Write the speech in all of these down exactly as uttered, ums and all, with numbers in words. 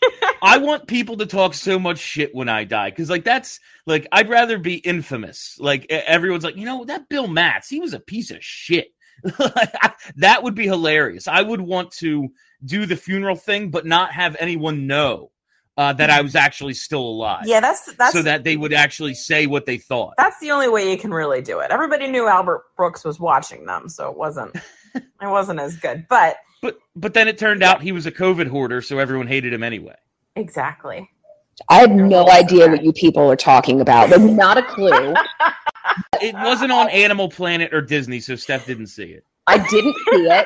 I want people to talk so much shit when I die, because like that's like I'd rather be infamous. Like everyone's like, you know, that Bill Matz, he was a piece of shit. That would be hilarious. I would want to do the funeral thing, but not have anyone know uh, that I was actually still alive. Yeah, that's that's so that they would actually say what they thought. That's the only way you can really do it. Everybody knew Albert Brooks was watching them, so it wasn't it wasn't as good. But but but then it turned out he was a COVID hoarder, so everyone hated him anyway. Exactly. I had no idea what you people are talking about. Like, not a clue. It wasn't on Animal Planet or Disney, so Steph didn't see it. I didn't see it.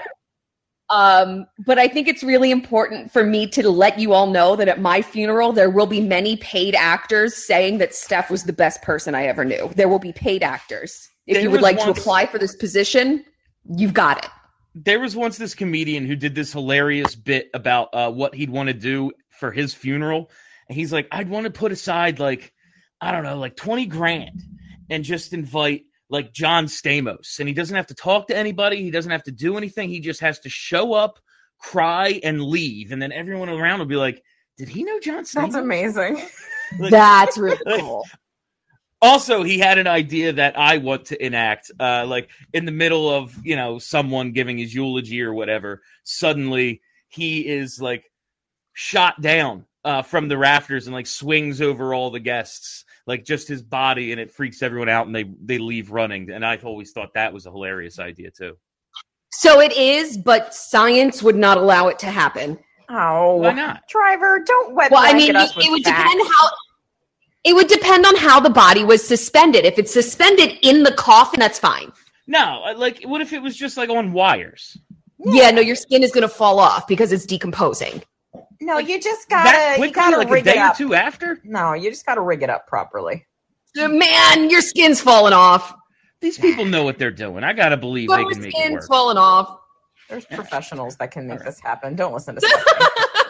Um, but I think it's really important for me to let you all know that at my funeral, there will be many paid actors saying that Steph was the best person I ever knew. There will be paid actors. If There you would was like once- to apply for this position, you've got it. There was once this comedian who did this hilarious bit about uh, what he'd want to do for his funeral. And he's like, I'd want to put aside like, I don't know, like twenty grand and just invite like John Stamos. And he doesn't have to talk to anybody. He doesn't have to do anything. He just has to show up, cry, and leave. And then everyone around will be like, did he know John Stamos? That's amazing. Like, That's really cool. Also, he had an idea that I want to enact, uh, like in the middle of, you know, someone giving his eulogy or whatever. Suddenly he is like shot down uh, from the rafters and like swings over all the guests, like just his body, and it freaks everyone out and they, they leave running. And I've always thought that was a hilarious idea too. So it is, but science would not allow it to happen. Oh, Why not? Driver, don't wet Well, I blanket mean, us it, with it would facts. depend how. It would depend on how the body was suspended. If it's suspended in the coffin, that's fine. No, uh, like what if it was just like on wires? Yeah, no, your skin is going to fall off because it's decomposing. No, you just That gotta you quickly, gotta like a rig it day or up. two after? No, you just gotta rig it up properly. Man, your skin's falling off. These people know what they're doing. I gotta believe Your they can make it skin's work. falling off. There's professionals that can make All right. this happen. Don't listen to Stephanie.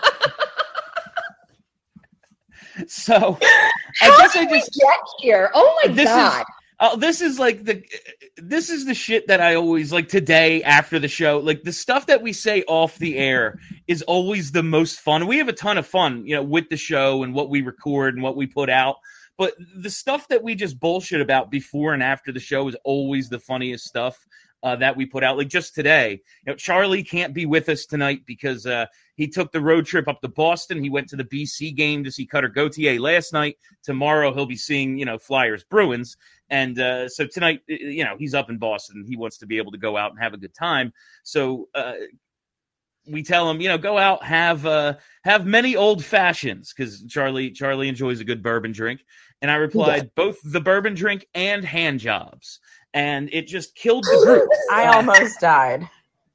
So I How guess I did we just get here? Oh my This is- god! Oh, this is like the this is the shit that I always like today after the show. Like the stuff that we say off the air is always the most fun. We have a ton of fun, you know, with the show and what we record and what we put out. But the stuff that we just bullshit about before and after the show is always the funniest stuff uh, that we put out. Like just today, you know, Charlie can't be with us tonight because uh, he took the road trip up to Boston. He went to the B C game to see Cutter Gauthier last night. Tomorrow he'll be seeing, you know, Flyers Bruins. And uh, so tonight, you know, he's up in Boston. He wants to be able to go out and have a good time. So uh, we tell him, you know, go out, have uh, have many old fashions, because Charlie Charlie enjoys a good bourbon drink. And I replied, Yeah. both the bourbon drink and hand jobs. And it just killed the group. I almost died.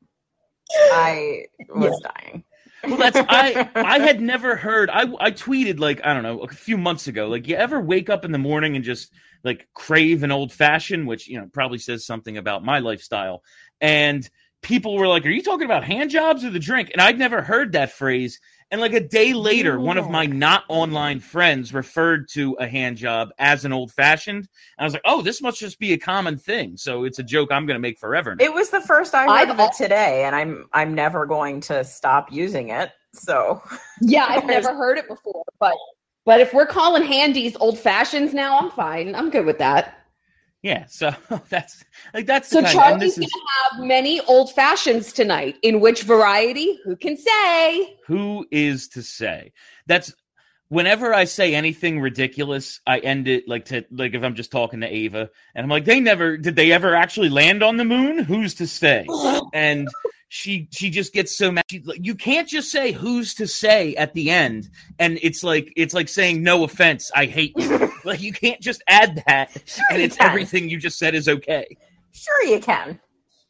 I was dying. Well, that's I. I had never heard. I I tweeted like I don't know a few months ago. Like, you ever wake up in the morning and just like crave an old fashioned, which you know probably says something about my lifestyle. And people were like, "Are you talking about hand jobs or the drink?" And I'd never heard that phrase. And like a day later, one of my not online friends referred to a hand job as an old fashioned. And I was like, "Oh, this must just be a common thing." So it's a joke I'm going to make forever now. It was the first I heard I've of it today, and I'm I'm never going to stop using it. So Yeah, I've never heard it before, but but if we're calling handies old fashions now, I'm fine. I'm good with that. Yeah. So that's like that's So the kind. And Charlie's this gonna is have many old fashions tonight. In which variety? Who can say? who is to say. That's whenever I say anything ridiculous, I end it like to like if I'm just talking to Ava, and I'm like, they never did they ever actually land on the moon? Who's to say? And she she just gets so mad. She's like, you can't just say who's to say at the end, and it's like it's like saying no offense, I hate you. Like you can't just add that, Sure and you it's can. everything you just said is okay. sure you can.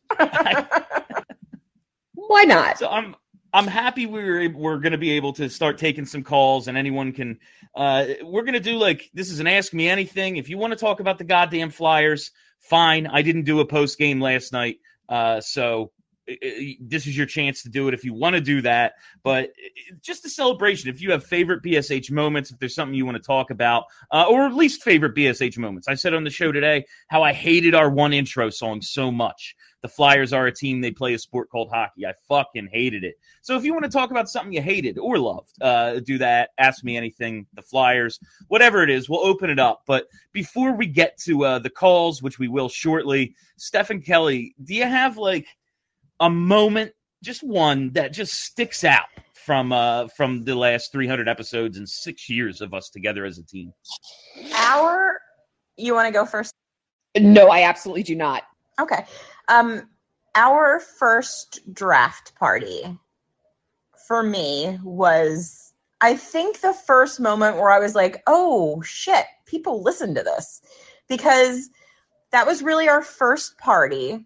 Why not? So I'm I'm happy we were ab- we're going to be able to start taking some calls, and anyone can. Uh, we're going to do like this is an Ask Me Anything. If you want to talk about the goddamn Flyers, fine. I didn't do a post game last night, uh, so this is your chance to do it if you want to do that. But just a celebration. If you have favorite B S H moments, if there's something you want to talk about, uh, or at least favorite B S H moments. I said on the show today how I hated our one intro song so much. The Flyers are a team. They play a sport called hockey. I fucking hated it. So if you want to talk about something you hated or loved, uh, do that. Ask me anything. The Flyers, whatever it is, we'll open it up. But before we get to uh, the calls, which we will shortly, Stephen Kelly, do you have like a moment, just one, that just sticks out from uh, from the last three hundred episodes and six years of us together as a team? Our, you want to go first? No, I absolutely do not. Okay. Um, our first draft party for me was, I think, the first moment where I was like, oh shit, people listen to this, because that was really our first party.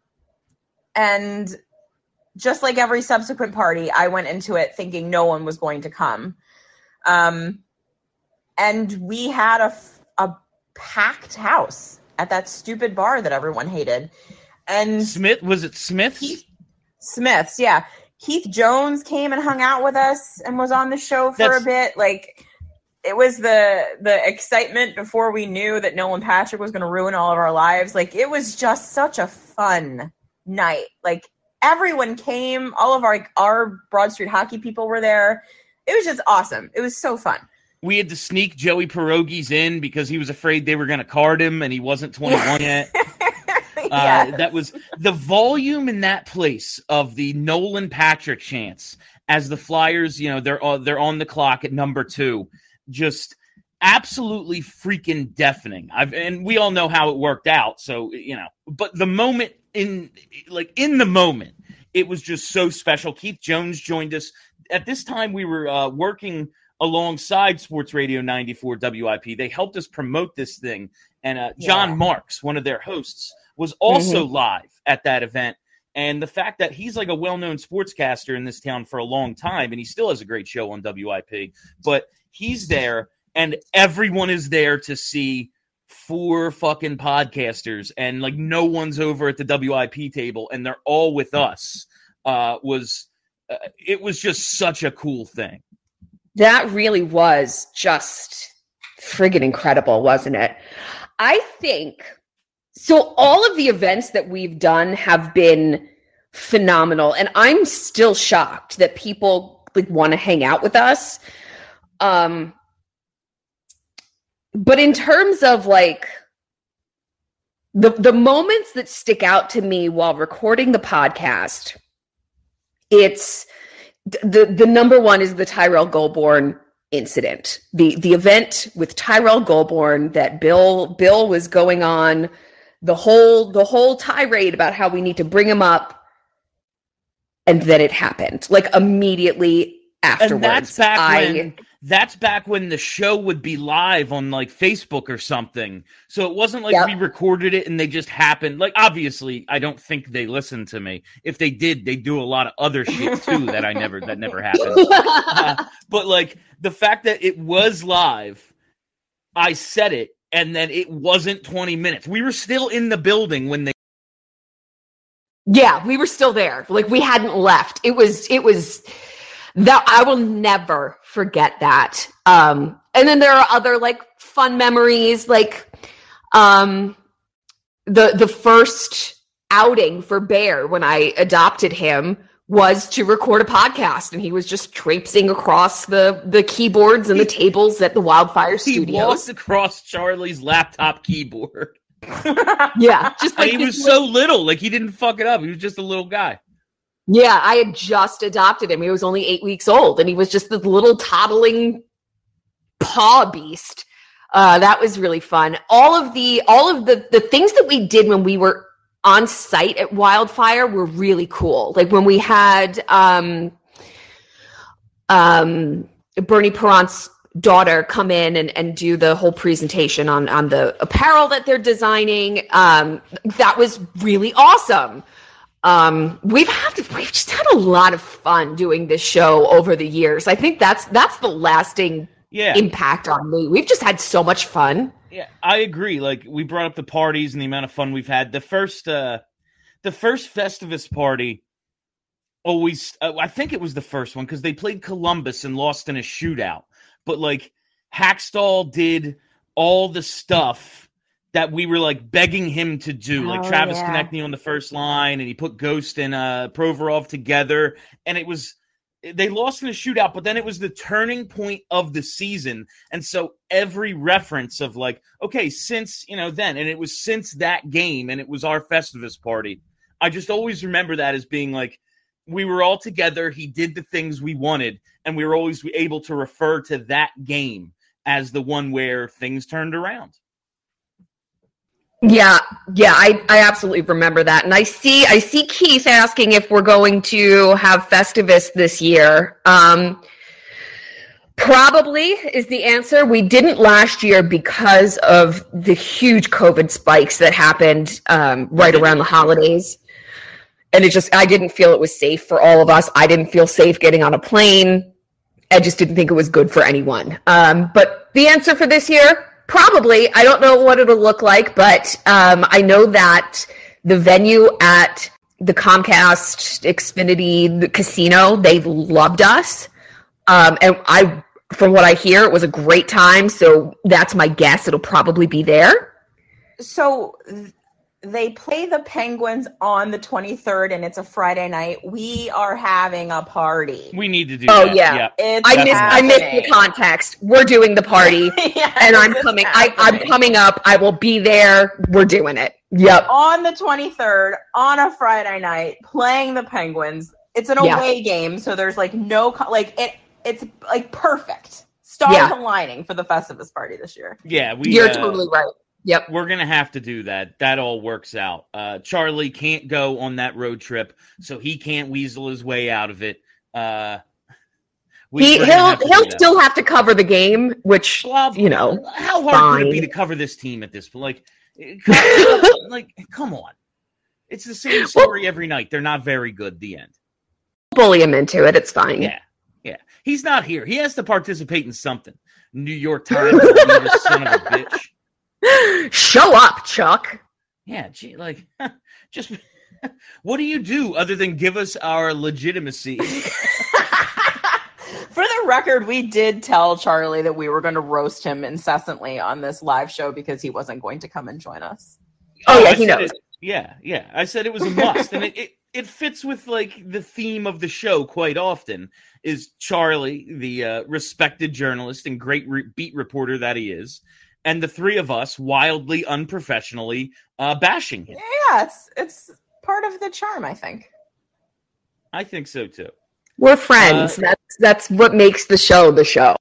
And just like every subsequent party, I went into it thinking no one was going to come. Um, and we had a, a packed house at that stupid bar that everyone hated. And Smith, was it Smith's? Keith, Smith's, yeah. Keith Jones came and hung out with us and was on the show for That's, a bit. Like, it was the the excitement before we knew that Nolan Patrick was going to ruin all of our lives. Like, it was just such a fun night. Like, everyone came. All of our our Broad Street hockey people were there. It was just awesome. It was so fun. We had to sneak Joey Pierogies in because he was afraid they were going to card him and he wasn't twenty-one yet. Uh, yes. That was the volume in that place of the Nolan Patrick chants as the Flyers, you know, they're uh, they're on the clock at number two. Just absolutely freaking deafening. I've and we all know how it worked out. So, you know, but the moment in like in the moment, it was just so special. Keith Jones joined us. At this time, we were uh, working alongside Sports Radio ninety-four W I P. They helped us promote this thing. And uh, John Yeah. Marks, one of their hosts, was also Mm-hmm. live at that event. And the fact that he's like a well-known sportscaster in this town for a long time, and he still has a great show on W I P, but he's there, and everyone is there to see four fucking podcasters, and like no one's over at the W I P table, and they're all with us. Uh, was uh, it was just such a cool thing. That really was just friggin' incredible, wasn't it? I think so. All of the events that we've done have been phenomenal, and I'm still shocked that people like want to hang out with us. Um, but in terms of like the the moments that stick out to me while recording the podcast, it's the the number one is the Tyrell Goulbourne incident, the the event with Tyrell Goulbourne that Bill Bill was going on the whole the whole tirade about how we need to bring him up, and then it happened like immediately afterwards. And that's back I, when that's back when the show would be live on like Facebook or something. So it wasn't like Yep. we recorded it and they just happened. Like obviously, I don't think they listened to me. If they did, they do a lot of other shit too that I never that never happened. Uh, but like the fact that it was live, I said it, and then it wasn't twenty minutes. We were still in the building when they. Yeah, we were still there. Like we hadn't left. It was it was that I will never forget that. Um and then there are other like fun memories, like um the the first outing for Bear when I adopted him was to record a podcast, and he was just traipsing across the the keyboards and the tables at the Wildfire He Studios. walked across Charlie's laptop keyboard. Yeah, just like And he this was so little, like he didn't fuck it up. He was just a little guy. Yeah, I had just adopted him. He was only eight weeks old, and he was just this little toddling paw beast. Uh, that was really fun. All of the all of the the things that we did when we were on site at Wildfire were really cool. Like when we had um, um, Bernie Perrant's daughter come in and, and do the whole presentation on on the apparel that they're designing. Um, that was really awesome. Um, we've had we've just had a lot of fun doing this show over the years. I think that's that's the lasting Yeah. impact on me. We've just had so much fun. Yeah, I agree. Like we brought up the parties and the amount of fun we've had. The first, uh, the first Festivus party always, uh, I think it was the first one because they played Columbus and lost in a shootout. But like Hackstall did all the stuff that we were like begging him to do, like Oh, Travis yeah. Konechny on the first line, and he put Ghost and uh, Provorov together, and it was they lost in a shootout, but then it was the turning point of the season, and so every reference of like, okay, since you know then, and it was since that game, and it was our Festivus party. I just always remember that as being like we were all together. He did the things we wanted, and we were always able to refer to that game as the one where things turned around. Yeah, yeah, I, I absolutely remember that. And I see I see Keith asking if we're going to have Festivus this year. Um, probably is the answer. We didn't last year because of the huge COVID spikes that happened um, right around the holidays. And it just, I didn't feel it was safe for all of us. I didn't feel safe getting on a plane. I just didn't think it was good for anyone. Um, but the answer for this year, probably. I don't know what it'll look like, but um, I know that the venue at the Comcast Xfinity the casino, they loved us. Um, and I, from what I hear, it was a great time. So that's my guess. It'll probably be there. So th- they play the Penguins on the twenty-third, and it's a Friday night. We are having a party. We need to do Oh, that. yeah. It's I missed, I missed the happening. context. We're doing the party, Yes, and I'm it's coming. I, I'm happening. coming up. I will be there. We're doing it. Yep. On the twenty-third, on a Friday night, playing the Penguins. It's an Yeah. away game, so there's like no co- like it. It's like perfect. Stars Yeah. aligning for the Festivus party this year. Yeah, we. You're uh, totally right. Yep. We're gonna have to do that. That all works out. Uh, Charlie can't go on that road trip, so he can't weasel his way out of it. Uh, we, He we're gonna he'll have to do he'll that. still have to cover the game, which Well, you know. how hard could it be fine. to cover this team at this point? Like, it- come- like, come on. It's the same story every night. They're not very good. The end. bully him into it. It's fine. Yeah, yeah. He's not here. He has to participate in something. New York Times, you son of a bitch. Show up, Chuck. Yeah, gee, like, just what do you do other than give us our legitimacy? For the record, we did tell Charlie that we were going to roast him incessantly on this live show because he wasn't going to come and join us. Oh, yeah, I he said knows. it- yeah, yeah. I said it was a must, and it, it it fits with like the theme of the show quite often. Is Charlie, the uh, respected journalist and great re- beat reporter that he is, and the three of us wildly unprofessionally uh, bashing him. Yeah, it's it's part of the charm, I think. I think so too. We're friends. Uh, that's that's what makes the show the show.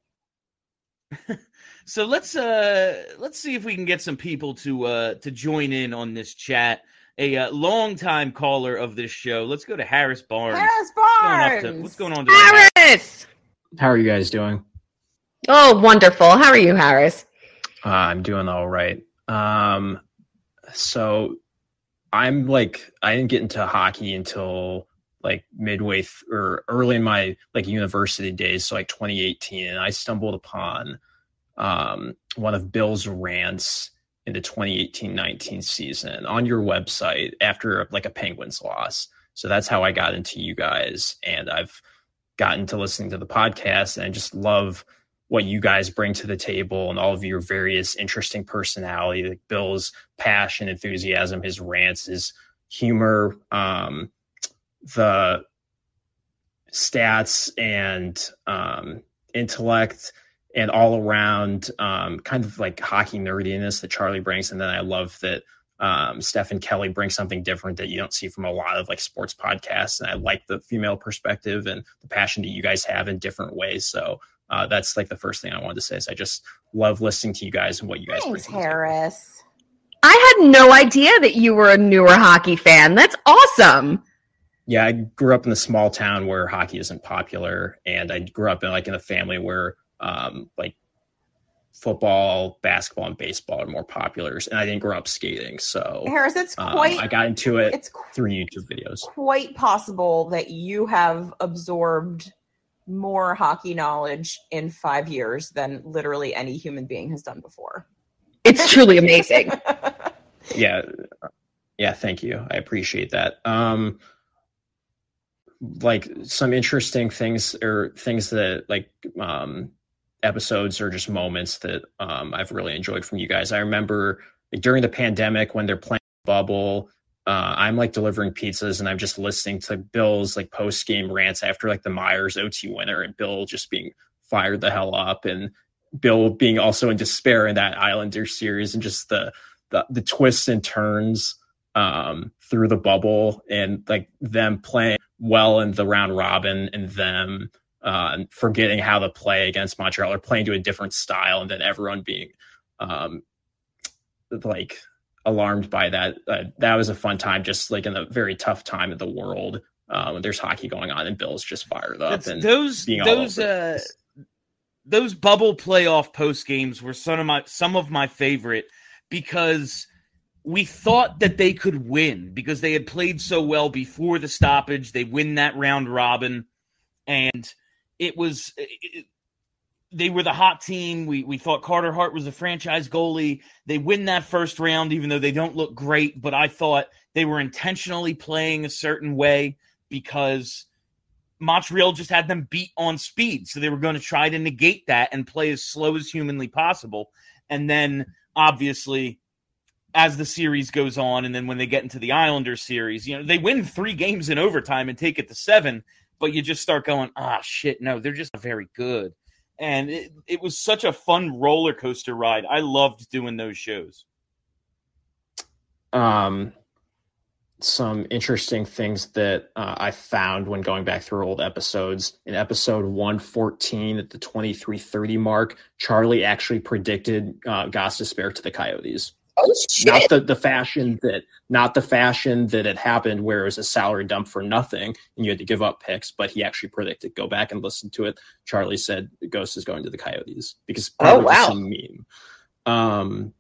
So let's uh let's see if we can get some people to uh to join in on this chat. A uh, longtime caller of this show. Let's go to Harris Barnes. Harris What's going, up Barnes. to, what's going on today? Harris. How are you guys doing? Oh, wonderful. How are you, Harris? Uh, I'm doing all right. Um, so I'm like, I didn't get into hockey until like midway th- or early in my like university days, so like twenty eighteen, and I stumbled upon um, one of Bill's rants in the twenty eighteen nineteen season on your website after like a Penguins loss. So that's how I got into you guys, and I've gotten to listening to the podcast, and I just love what you guys bring to the table and all of your various interesting personality, like Bill's passion, enthusiasm, his rants, his humor, um, the stats and um, intellect, and all around um, kind of like hockey nerdiness that Charlie brings. And then I love that um, Stephen Kelly brings something different that you don't see from a lot of like sports podcasts. And I like the female perspective and the passion that you guys have in different ways. So uh, that's like the first thing I wanted to say is I just love listening to you guys and what you guys bring Thanks, to the table. Harris. I had no idea that you were a newer hockey fan. That's awesome. Yeah, I grew up in a small town where hockey isn't popular, and I grew up in like in a family where um, like football, basketball, and baseball are more popular, and I didn't grow up skating, so Harris, it's um, quite I got into it it's qu- through YouTube videos. quite possible that you have absorbed more hockey knowledge in five years than literally any human being has done before. It's truly amazing. Yeah, Yeah, thank you. I appreciate that. Um, like some interesting things or things that like um, episodes or just moments that um, I've really enjoyed from you guys. I remember like, during the pandemic when they're playing Bubble, uh, I'm like delivering pizzas and I'm just listening to Bill's like post game rants after like the Myers O T winner and Bill just being fired the hell up and Bill being also in despair in that Islander series and just the the, the twists and turns um, through the bubble and like them playing well in the round robin and them uh, forgetting how to play against Montreal or playing to a different style and then everyone being um, like alarmed by that. Uh, that was a fun time, just like in a very tough time in the world uh, when there's hockey going on and Bill's just fired up. That's, and those being those uh, those bubble playoff post games were some of my some of my favorite because we thought that they could win because they had played so well before the stoppage. They win that round robin, and it was it, they were the hot team. We we thought Carter Hart was a franchise goalie. They win that first round, even though they don't look great. But I thought they were intentionally playing a certain way because Montreal just had them beat on speed. So they were going to try to negate that and play as slow as humanly possible. And then, obviously, as the series goes on, and then when they get into the Islanders series, you know, they win three games in overtime and take it to seven, but you just start going, ah, shit, no, they're just very good. And it, it was such a fun roller coaster ride. I loved doing those shows. Um, some interesting things that uh, I found when going back through old episodes. In episode one fourteen at the twenty-three thirty mark, Charlie actually predicted uh, Gostisbehere to the Coyotes. Oh shit! Not the, the fashion that not the fashion that had happened where it was a salary dump for nothing and you had to give up picks, but he actually predicted. Go back and listen to it. Charlie said Ghost is going to the Coyotes because oh wow, some meme. Um,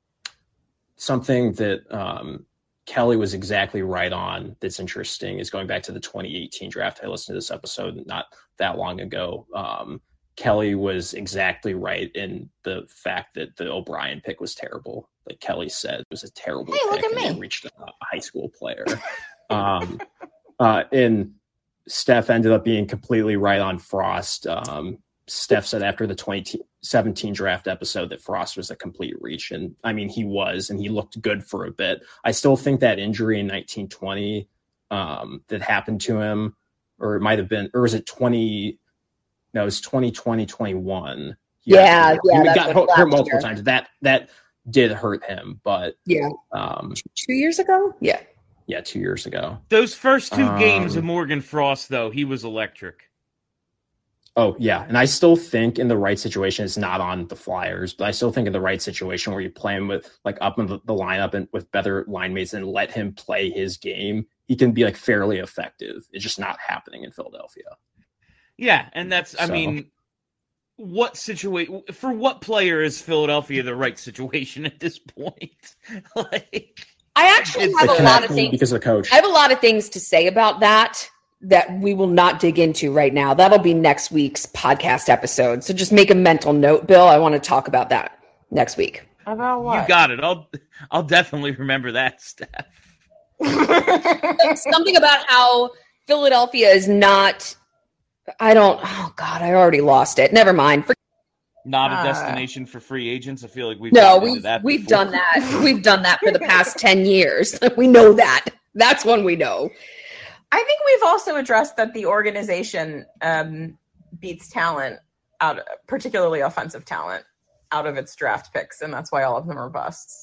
something that um, Kelly was exactly right on. That's interesting is going back to the twenty eighteen draft. I listened to this episode not that long ago. Um, Kelly was exactly right in the fact that the O'Brien pick was terrible. Like Kelly said, it was a terrible Hey, pick. look at and me. it reached a high school player. um, uh, and Steph ended up being completely right on Frost. Um, Steph said after the twenty seventeen draft episode that Frost was a complete reach. And I mean, he was, and he looked good for a bit. I still think that injury in nineteen twenty um, that happened to him, or it might've been, or was it twenty, no, it was twenty twenty, twenty-one. He Yeah, actually- yeah, He that's got what hurt, hurt last multiple year. times. That, that did hurt him, but yeah, um, two years ago, yeah. yeah, two years ago. Those first two Um, games of Morgan Frost, though, he was electric. Oh, yeah. And I still think in the right situation, it's not on the Flyers, but I still think in the right situation where you play him with like up in the, the lineup and with better line mates and let him play his game, he can be like fairly effective. It's just not happening in Philadelphia. Yeah, and that's, I So- mean, what situation, for what player is Philadelphia the right situation at this point? like, I actually It's have It a can lot of happen things. because of the coach. I have a lot of things to say about that that we will not dig into right now. That'll be next week's podcast episode. So just make a mental note, Bill. I want to talk about that next week. About what? you got it. I'll, I'll definitely remember that, Steph. Something about how Philadelphia is not. I don't. Oh God, I already lost it. Never mind. For, Not a Uh, destination for free agents. I feel like we've no, gotten into we've that we've before. done that. We've done that for the past ten years. We know that. That's one we know. I think we've also addressed that the organization um, beats talent out, particularly offensive talent, out of its draft picks, and that's why all of them are busts.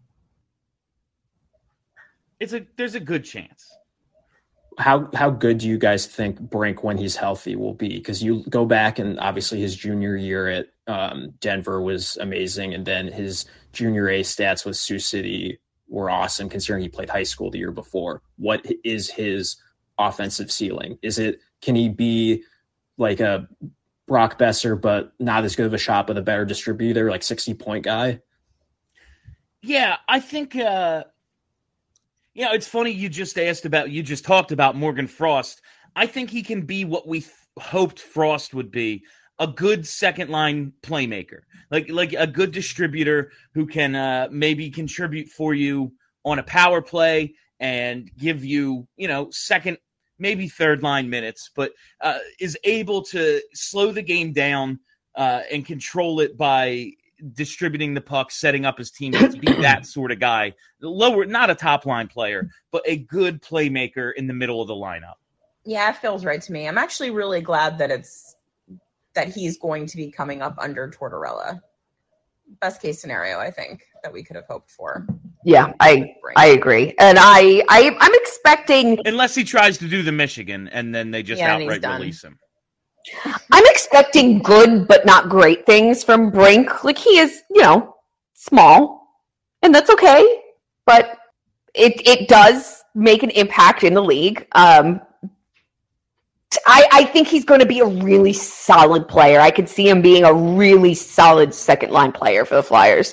It's a there's a good chance. How how good do you guys think Brink when he's healthy will be? Because you go back and obviously his junior year at um, Denver was amazing, and then his junior A stats with Sioux City were awesome considering he played high school the year before. What is his offensive ceiling? Is it can he be like a Brock Besser but not as good of a shot but a better distributor, like sixty point guy? Yeah, I think. Uh, you know, it's funny you just asked about. You just talked about Morgan Frost. I think he can be what we th- hoped Frost would be. A good second line playmaker, like like a good distributor who can uh, maybe contribute for you on a power play and give you, you know, second, maybe third line minutes, but uh, is able to slow the game down uh, and control it by distributing the puck, setting up his teammates, be that sort of guy. Lower, not a top line player, but a good playmaker in the middle of the lineup. Yeah, it feels right to me. I'm actually really glad that it's that he's going to be coming up under Tortorella. Best case scenario, I think, that we could have hoped for. Yeah, I I agree, and I, I I'm expecting, unless he tries to do the Michigan and then they just Yeah, and he's outright done. release him. I'm expecting good but not great things from Brink. Like, he is, you know, small, and that's okay, but it it does make an impact in the league. Um, I I think he's going to be a really solid player. I could see him being a really solid second line player for the Flyers.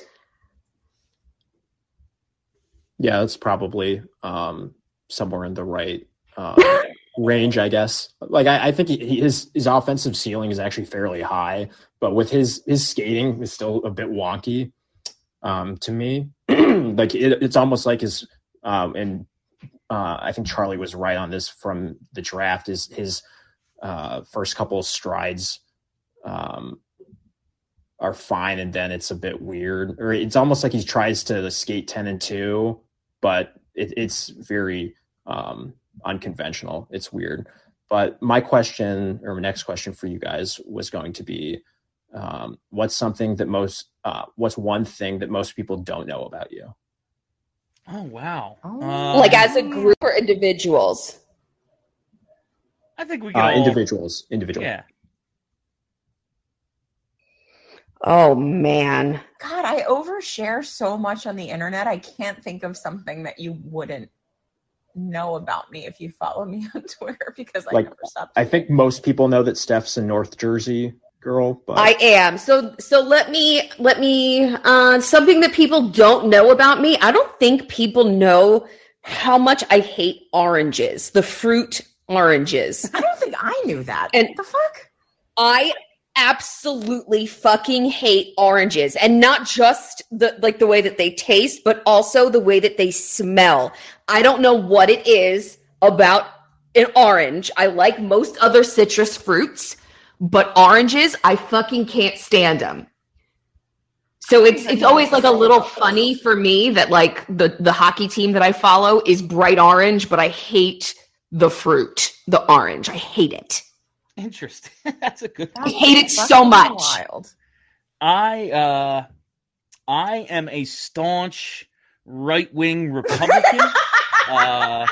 Yeah, that's probably um, somewhere in the right uh, range, I guess. Like, I, I think he, he, his his offensive ceiling is actually fairly high, but with his his skating is still a bit wonky um, to me. Like, it, it's almost like his um, and uh, I think Charlie was right on this from the draft. Is his uh, first couple of strides um, are fine, and then it's a bit weird, or it's almost like he tries to skate ten and two. But it, it's very um, unconventional. It's weird. But my question, or my next question for you guys, was going to be, um, what's something that most, uh, what's one thing that most people don't know about you? Oh, wow. Oh. Um, Like, as a group or individuals? I think we can Uh, all, individuals, individual. Yeah. Oh, man. God, I overshare so much on the internet. I can't think of something that you wouldn't know about me if you follow me on Twitter, because I Like, never stop. I think most people know that Steph's a North Jersey girl, but I am. So so let me let me uh something that people don't know about me. I don't think people know how much I hate oranges, the fruit oranges. I don't think I knew that. And- what the fuck? I absolutely fucking hate oranges, and not just the like the way that they taste, but also the way that they smell. I don't know what it is about an orange. I like most other citrus fruits, but oranges, I fucking can't stand them. So it's it's always like a little funny for me that like the the hockey team that I follow is bright orange, but I hate the fruit, the orange. I hate it. Interesting. That's a good I hate it so much. Wild. I uh, I am a staunch right-wing Republican. uh,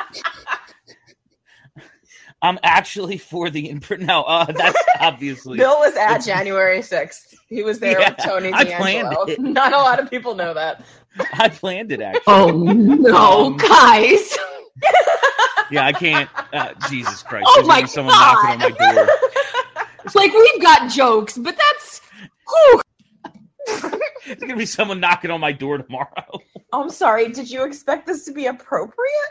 I'm actually for the imprint. No, uh, that's obviously. Bill was at January sixth. He was there Yeah, with Tony I planned D'Angelo. it. Not a lot of people know that. I planned it actually. Oh no, Um, guys. Yeah, I can't. Uh, Jesus Christ! Oh There's gonna my be someone knocking on my door. Like, we've got jokes, but that's whew. There's gonna be someone knocking on my door tomorrow. I'm sorry. Did you expect this to be appropriate?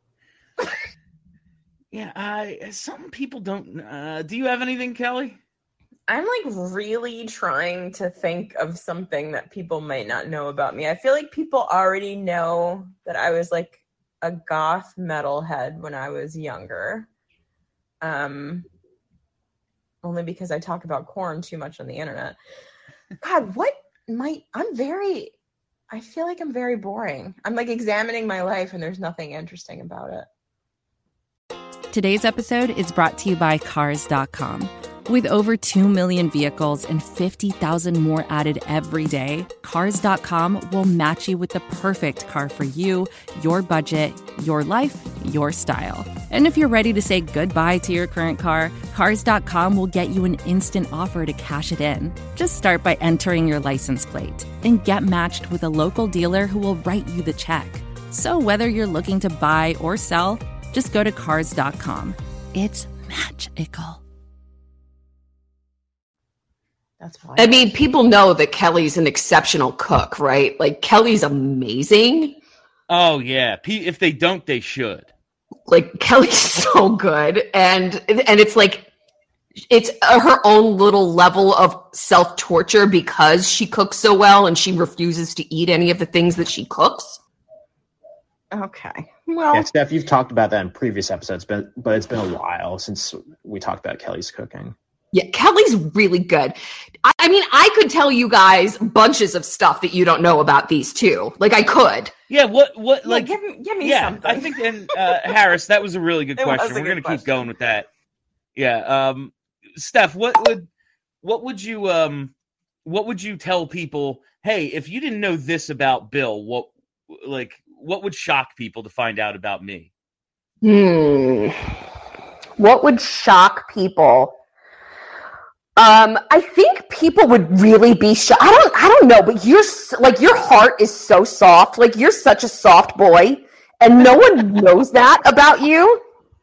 Yeah, I. Some people don't. Uh, do you have anything, Kelly? I'm like really trying to think of something that people might not know about me. I feel like people already know that I was like a goth metalhead when I was younger. Um, only because I talk about Korn too much on the internet. God, what might I'm very I feel like I'm very boring. I'm like examining my life and there's nothing interesting about it. Today's episode is brought to you by Cars dot com. With over two million vehicles and fifty thousand more added every day, Cars dot com will match you with the perfect car for you, your budget, your life, your style. And if you're ready to say goodbye to your current car, Cars dot com will get you an instant offer to cash it in. Just start by entering your license plate and get matched with a local dealer who will write you the check. So whether you're looking to buy or sell, just go to Cars dot com. It's magical. That's why. I mean, people know that Kelly's an exceptional cook, right? Like, Kelly's amazing. Oh yeah. P- if they don't, they should. Like, Kelly's so good, and and it's like it's her own little level of self-torture because she cooks so well and she refuses to eat any of the things that she cooks. Okay. Well, Yeah, Steph, you've talked about that in previous episodes, but but it's been a while since we talked about Kelly's cooking. Yeah, Kelly's really good. I, I mean, I could tell you guys bunches of stuff that you don't know about these two. Like, I could. Yeah, what, what, yeah, like, give, me- give me yeah, something. I think, and uh, Harris, that was a really good It was question. a We're good going to keep question. going with that. Yeah, um, Steph, what would, what would you, um, what would you tell people? Hey, if you didn't know this about Bill, what, like, what would shock people to find out about me? Hmm. What would shock people? Um, I think people would really be shocked. I don't, I don't know, but you're s- like, your heart is so soft. Like, you're such a soft boy, and no one knows that about you.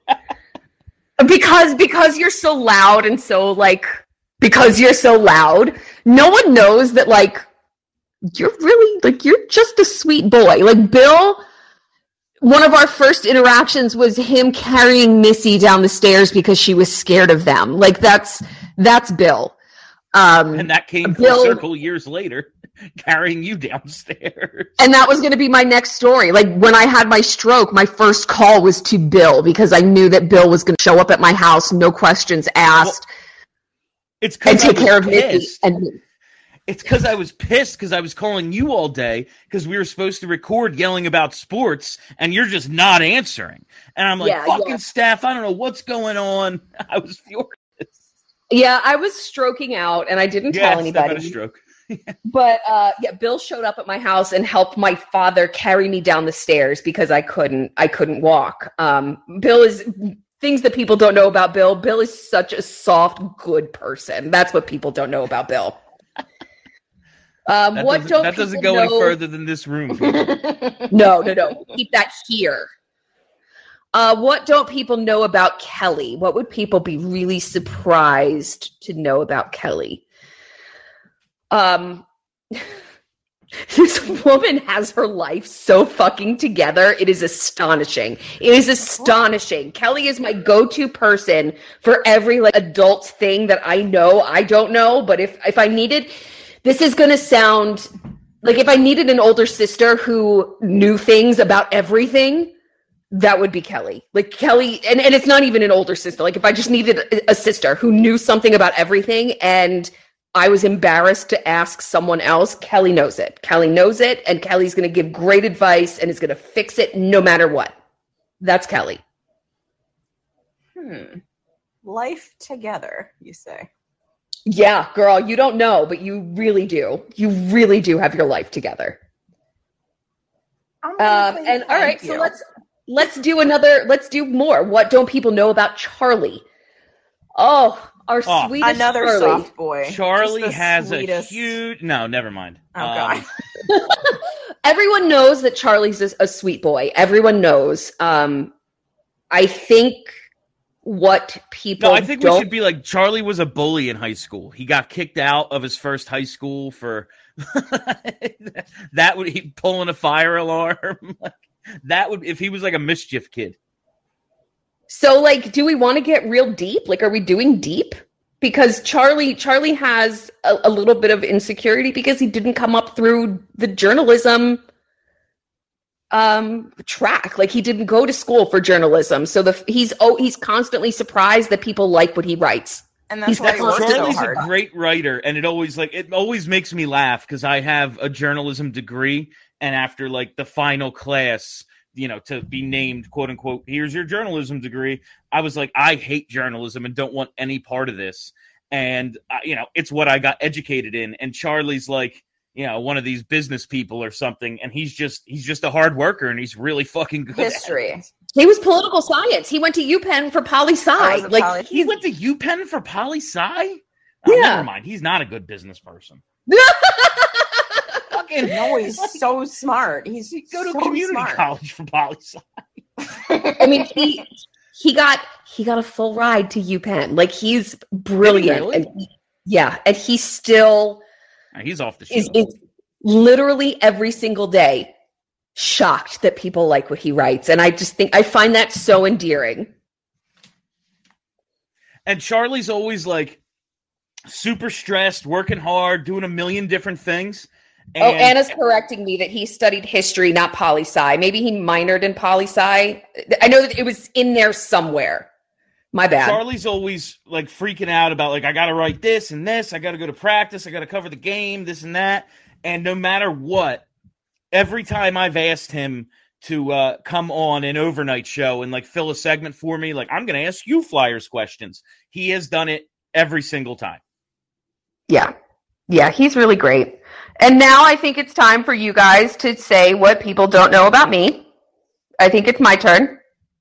Because, because you're so loud and so, like, because you're so loud, no one knows that, like, you're really, like, you're just a sweet boy. Like, Bill, one of our first interactions was him carrying Missy down the stairs because she was scared of them. Like, that's, that's Bill. Um, And that came Bill- full circle years later, carrying you downstairs. And that was going to be my next story. Like, when I had my stroke, my first call was to Bill because I knew that Bill was going to show up at my house, no questions asked, It's and because I take was care of Missy. pissed. And It's because I was pissed because I was calling you all day because we were supposed to record yelling about sports and you're just not answering. And I'm like, Yeah, fucking yeah. Steph, I don't know what's going on. I was furious. yeah, I was stroking out, and I didn't Yeah, tell Steph had a anybody. stroke. But uh, yeah, Bill showed up at my house and helped my father carry me down the stairs because I couldn't. I couldn't walk. Um, Bill is things that people don't know about Bill. Bill is such a soft, good person. That's what people don't know about Bill. Um, That what doesn't, don't that doesn't people go any know- further than this room. No, no, no. Keep that here. Uh, what don't people know about Kelly? What would people be really surprised to know about Kelly? Um, this woman has her life so fucking together. It is astonishing. It is astonishing. Kelly is my go-to person for every like adult thing that I know I don't know. But if if I needed, this is gonna sound like if I needed an older sister who knew things about everything, that would be Kelly. Like Kelly, and, and it's not even an older sister. Like if I just needed a, a sister who knew something about everything and I was embarrassed to ask someone else, Kelly knows it. Kelly knows it, and Kelly's going to give great advice and is going to fix it no matter what. That's Kelly. Hmm. Life together, you say. Yeah, girl, you don't know, but you really do. You really do have your life together. I'm gonna Um, say and all thank right, so you. let's let's do another. Let's do more. What don't people know about Charlie? Oh, our Oh, sweetest Another Charlie. soft boy. Charlie Just the has sweetest- a huge. No, never mind. Oh, Um, God. Everyone knows that Charlie's a, a sweet boy. Everyone knows. Um, I think what people No, I think we don't should be like Charlie was a bully in high school. He got kicked out of his first high school for that would he pulling a fire alarm. Like, that would if he was like a mischief kid. So, like, do we want to get real deep? Like, are we doing deep? Because Charlie, Charlie has a, a little bit of insecurity because he didn't come up through the journalism um, track. Like, he didn't go to school for journalism, so the he's oh he's constantly surprised that people like what he writes. And that's He's why he works so Charlie's hard. a great writer, and it always like it always makes me laugh because I have a journalism degree, and after like the final class, you know, to be named quote unquote, here's your journalism degree. I was like, I hate journalism and don't want any part of this. And uh, you know, it's what I got educated in. And Charlie's like, you know, one of these business people or something, and he's just he's just a hard worker, and he's really fucking good. at it. History. He was political science. He went to UPenn for poli I sci. was a Like, poli- He went to UPenn for poli sci. Oh, Yeah. Never mind. He's not a good business person. Fucking No, he's so smart. He's go to so community smart. college for poli sci. I mean, he he got he got a full ride to UPenn. Like, he's brilliant. really? And he- yeah, and he still He's off the show. is, is literally every single day shocked that people like what he writes. And I just think I find that so endearing. And Charlie's always like super stressed, working hard, doing a million different things. And, oh, Anna's correcting me that he studied history, not poli-sci. Maybe he minored in poli-sci. I know that it was in there somewhere. My bad. Charlie's always like freaking out about like, I got to write this and this. I got to go to practice. I got to cover the game, this and that. And no matter what, every time I've asked him to uh, come on an overnight show and like fill a segment for me, like I'm going to ask you Flyers questions. He has done it every single time. Yeah. Yeah, he's really great. And now I think it's time for you guys to say what people don't know about me. I think it's my turn.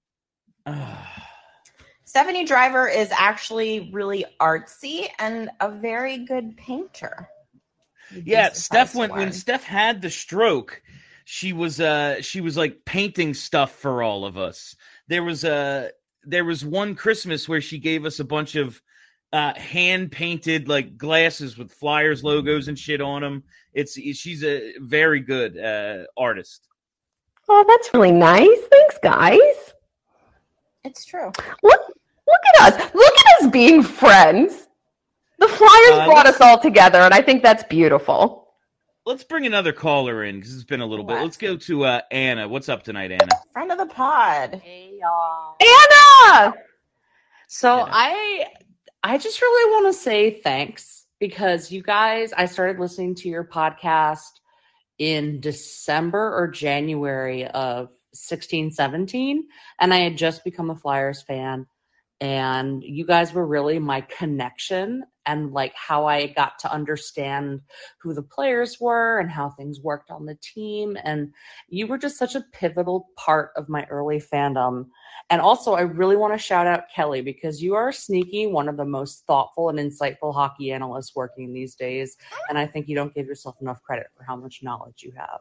Stephanie Driver is actually really artsy and a very good painter. Yeah, Steph when, when Steph had the stroke, she was uh she was like painting stuff for all of us. There was a there was one Christmas where she gave us a bunch of uh hand painted like glasses with Flyers logos and shit on them. It's she's a very good uh artist. Oh, that's really nice. Thanks, guys. It's true. Look look at us. Look at us being friends. The Flyers uh, brought us all together, and I think that's beautiful. Let's bring another caller in because it's been a little what? bit. Let's go to uh, Anna. What's up tonight, Anna? Friend of the pod. Hey, y'all. Anna! So Anna. I I just really want to say thanks because you guys, I started listening to your podcast in December or January of sixteen seventeen, and I had just become a Flyers fan. And you guys were really my connection and like how I got to understand who the players were and how things worked on the team. And you were just such a pivotal part of my early fandom. And also, I really want to shout out Kelly because you are sneaky, one of the most thoughtful and insightful hockey analysts working these days. And I think you don't give yourself enough credit for how much knowledge you have.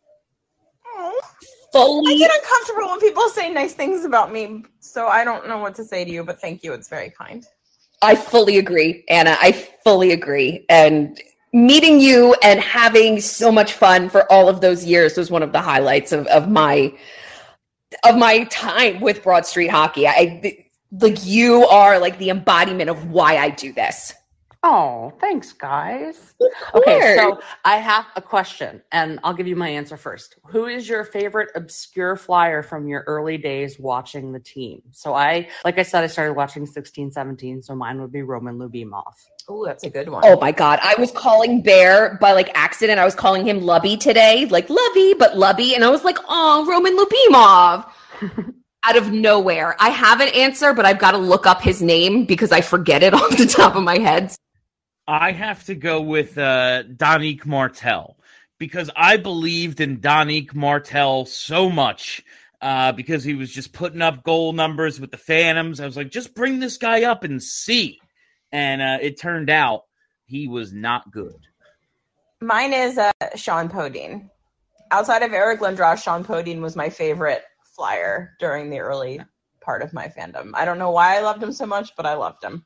Fully. I get uncomfortable when people say nice things about me, so I don't know what to say to you, but thank you. It's very kind. I fully agree, Anna. I fully agree. And meeting you and having so much fun for all of those years was one of the highlights of, of my of my time with Broad Street Hockey. I like you are like the embodiment of why I do this. Oh, thanks, guys. Okay, so I have a question, and I'll give you my answer first. Who is your favorite obscure Flyer from your early days watching the team? So I, like I said, I started watching sixteen seventeen, so mine would be Roman Lyubimov. Oh, that's a good one. Oh, my God. I was calling Bear by, like, accident. I was calling him Lubby today. Like, Lubby, but Lubby. And I was like, oh, Roman Lyubimov. Out of nowhere. I have an answer, but I've got to look up his name because I forget it off the top of my head. I have to go with uh, Danique Martel because I believed in Danique Martel so much uh, because he was just putting up goal numbers with the Phantoms. I was like, just bring this guy up and see. And uh, it turned out he was not good. Mine is uh, Sean Podine. Outside of Eric Lindros, Sean Podine was my favorite Flyer during the early part of my fandom. I don't know why I loved him so much, but I loved him.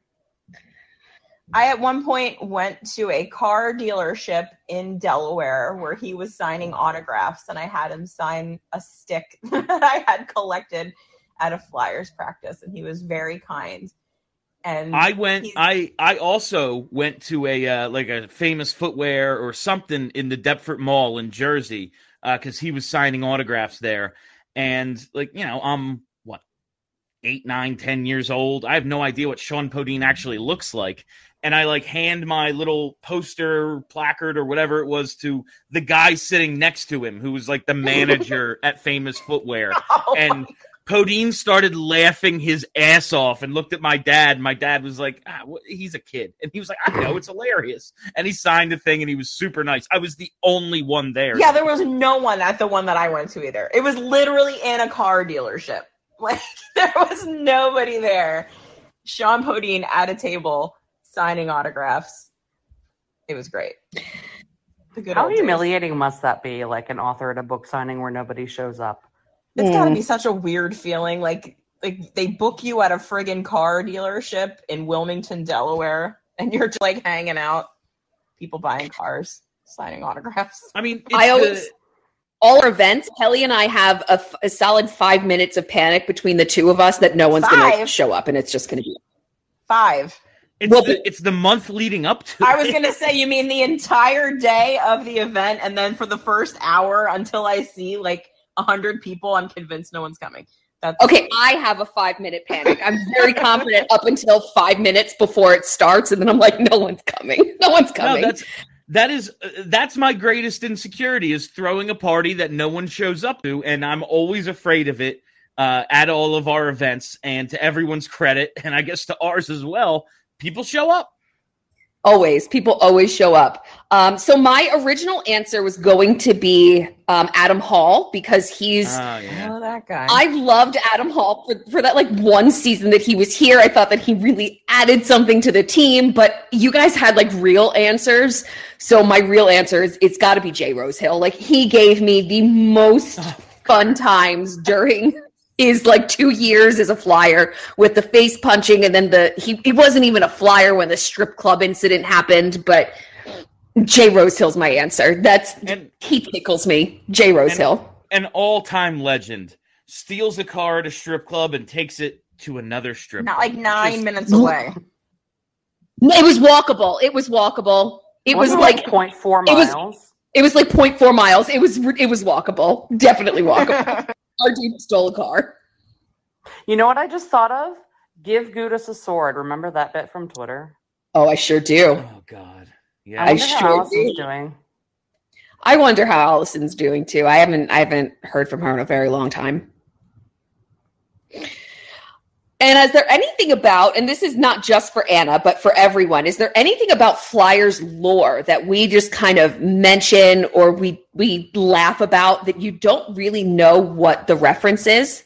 I, at one point, went to a car dealership in Delaware where he was signing autographs, and I had him sign a stick that I had collected at a Flyers practice, and he was very kind. And I went. I I also went to a uh, like a Famous Footwear or something in the Deptford Mall in Jersey because uh, he was signing autographs there, and like you know, I'm what eight, nine, ten years old. I have no idea what Sean Podine actually looks like. And I like hand my little poster placard or whatever it was to the guy sitting next to him, who was like the manager at Famous Footwear. Oh, and Podine started laughing his ass off and looked at my dad. My dad was like, ah, he's a kid. And he was like, I know, it's hilarious. And he signed the thing and he was super nice. I was the only one there. Yeah, there was no one at the one that I went to either. It was literally in a car dealership. Like, there was nobody there. Sean Podine at a table signing autographs. It was great. The good How humiliating days. Must that be, like an author at a book signing where nobody shows up? It's mm. got to be such a weird feeling. Like, like they book you at a friggin' car dealership in Wilmington, Delaware, and you're just like hanging out, people buying cars, signing autographs. I mean, it's I always, the... all our events, Kelly and I have a, a solid five minutes of panic between the two of us that no one's going to show up, and it's just going to be five. It's, Well, the, it's the month leading up to I was it. going to say, you mean the entire day of the event, and then for the first hour until I see like a hundred people, I'm convinced no one's coming. That's Okay, I have a five minute panic. I'm very confident up until five minutes before it starts, and then I'm like, no one's coming. No one's No, coming. that's that is uh, that's my greatest insecurity is throwing a party that no one shows up to, and I'm always afraid of it uh, at all of our events. And to everyone's credit, and I guess to ours as well, people show up. Always. People always show up. Um, so my original answer was going to be um, Adam Hall because he's Oh, yeah. oh, that guy. I loved Adam Hall for, for that like one season that he was here. I thought that he really added something to the team, but you guys had like real answers. So my real answer is it's got to be Jay Rosehill. Like he gave me the most fun times during his like two years as a Flyer with the face punching, and then the he, he wasn't even a Flyer when the strip club incident happened, but Jay Rosehill's my answer. That's And- he tickles me. Jay Rosehill. An all-time legend steals a car at a strip club and takes it to another strip Not club. like nine Just- minutes away. It was walkable. It was walkable. It was Wasn't like zero point four it was- miles. it was like zero point four miles. It was it was walkable. Definitely walkable. Our dude stole a car. You know what I just thought of? Give Gudis a sword. Remember that bit from Twitter? Oh, I sure do. Oh God. Yeah. I I wonder how sure Allison's do. doing. I wonder how Allison's doing too. I haven't I haven't heard from her in a very long time. And is there anything about, and this is not just for Anna, but for everyone, is there anything about Flyers lore that we just kind of mention or we we laugh about that you don't really know what the reference is?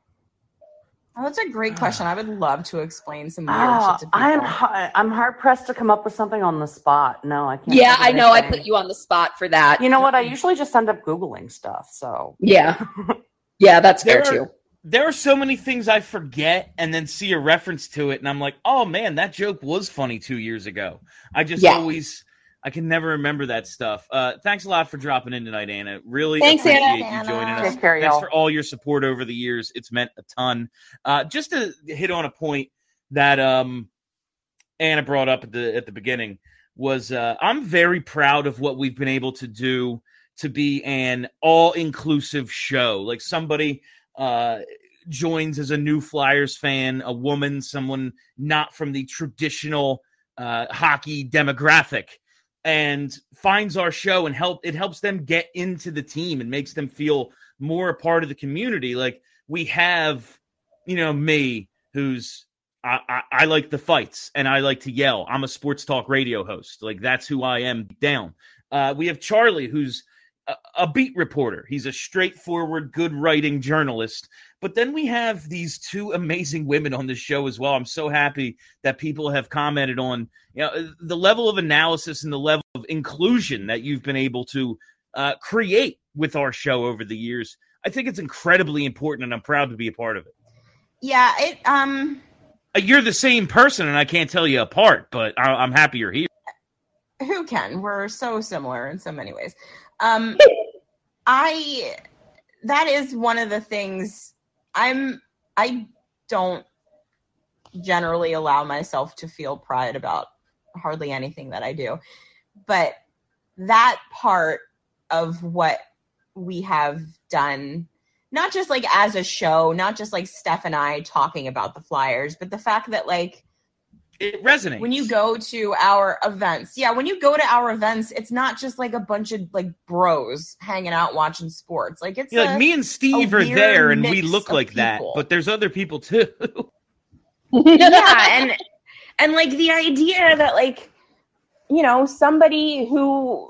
Oh, that's a great question. I would love to explain some weird Oh, shit to people. I'm ha- I'm hard pressed to come up with something on the spot. No, I can't. Yeah, think of I know I anything. put you on the spot for that. You know what? I usually just end up Googling stuff. So Yeah. Yeah, that's fair There are- too. There are so many things I forget and then see a reference to it, and I'm like, oh man, that joke was funny two years ago. I just Yeah. always, I can never remember that stuff. Uh, thanks a lot for dropping in tonight, Anna. Really Thanks, appreciate Anna. you joining Anna. us. Take care, Thanks y'all. for all your support over the years. It's meant a ton. Uh, just to hit on a point that um, Anna brought up at the at the beginning was uh, I'm very proud of what we've been able to do to be an all-inclusive show. Like somebody uh, joins as a new Flyers fan, a woman, someone not from the traditional uh, hockey demographic, and finds our show and help it helps them get into the team and makes them feel more a part of the community. Like we have, you know, me who's I, I, I like the fights and I like to yell. I'm a sports talk radio host. Like that's who I am down. Uh, we have Charlie, who's a, a beat reporter. He's a straightforward, good writing journalist. But then we have these two amazing women on this show as well. I'm so happy that people have commented on, you know, the level of analysis and the level of inclusion that you've been able to uh, create with our show over the years. I think it's incredibly important, and I'm proud to be a part of it. Yeah, it um Uh, You're the same person, and I can't tell you apart, but I- I'm happy you're here. who can? We're so similar in so many ways. Um I that is one of the things I'm I don't generally allow myself to feel pride about hardly anything that I do. But that part of what we have done, not just like as a show, not just like Steph and I talking about the Flyers, but the fact that like It resonates. when you go to our events, yeah, when you go to our events, it's not just like a bunch of like bros hanging out watching sports. Like it's Yeah, like a- me and Steve a are weird there, and we mix look of like that, people. but there's other people too. yeah, and and like the idea that like, you know, somebody who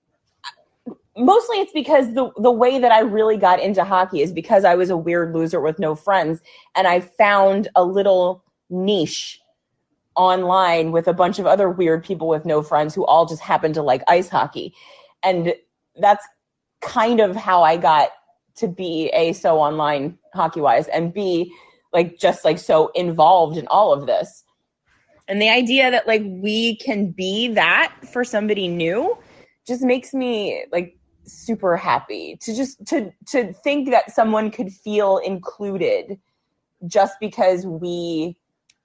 mostly it's because the the way that I really got into hockey is because I was a weird loser with no friends, and I found a little niche online with a bunch of other weird people with no friends who all just happen to like ice hockey. And that's kind of how I got to be A, so online hockey wise, and B, like just like so involved in all of this. And the idea that like we can be that for somebody new just makes me like super happy to just to to think that someone could feel included just because we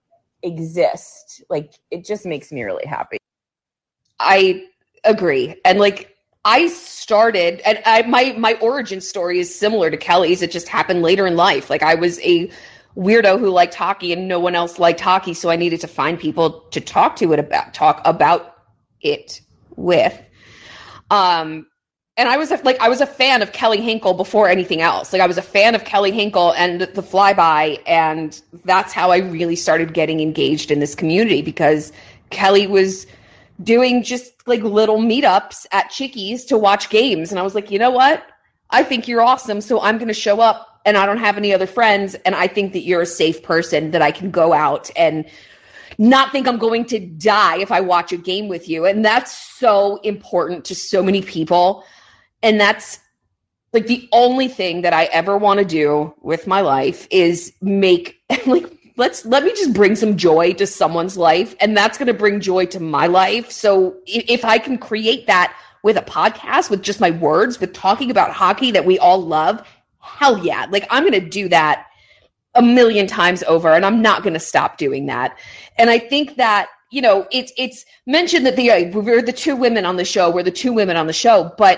exist, like it just makes me really happy. I agree. And like I started and I my my origin story is similar to Kelly's. It just happened later in life. Like I was a weirdo who liked hockey and no one else liked hockey, so I needed to find people to talk to it about talk about it with. Um and I was a, like I was a fan of Kelly Hinkle before anything else. Like I was a fan of Kelly Hinkle and the Flyby, and that's how I really started getting engaged in this community, because Kelly was doing just like little meetups at Chickies to watch games. And I was like, you know what? I think you're awesome. So I'm going to show up, and I don't have any other friends. And I think that you're a safe person that I can go out and not think I'm going to die if I watch a game with you. And that's so important to so many people. And that's like the only thing that I ever want to do with my life is make like, Let's let me just bring some joy to someone's life, and that's going to bring joy to my life. So if, if I can create that with a podcast, with just my words, with talking about hockey that we all love, hell yeah. Like I'm going to do that a million times over, and I'm not going to stop doing that. And I think that, you know, it's, it's mentioned that the, uh, we're the two women on the show, we're the two women on the show, but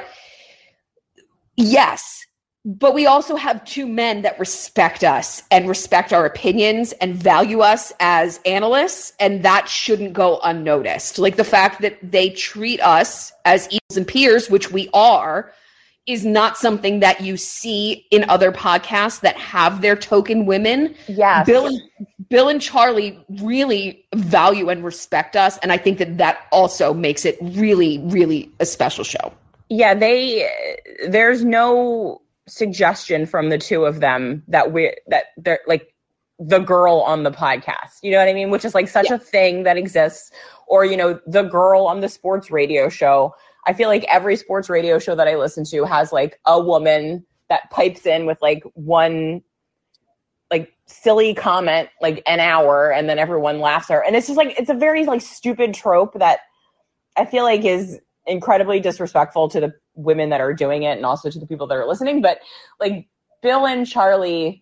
yes, but we also have two men that respect us and respect our opinions and value us as analysts, and that shouldn't go unnoticed. Like the fact that they treat us as equals and peers, which we are, is not something that you see in other podcasts that have their token women. Yes. Bill, Bill and Charlie really value and respect us, and I think that that also makes it really, really a special show. Yeah, they there's no suggestion from the two of them that we that they're like the girl on the podcast, you know what I mean, which is like such yeah. a thing that exists. Or, you know, the girl on the sports radio show. I feel like every sports radio show that I listen to has like a woman that pipes in with like one like silly comment like an hour, and then everyone laughs at her, and it's just like it's a very like stupid trope that I feel like is incredibly disrespectful to the women that are doing it and also to the people that are listening. But like Bill and Charlie,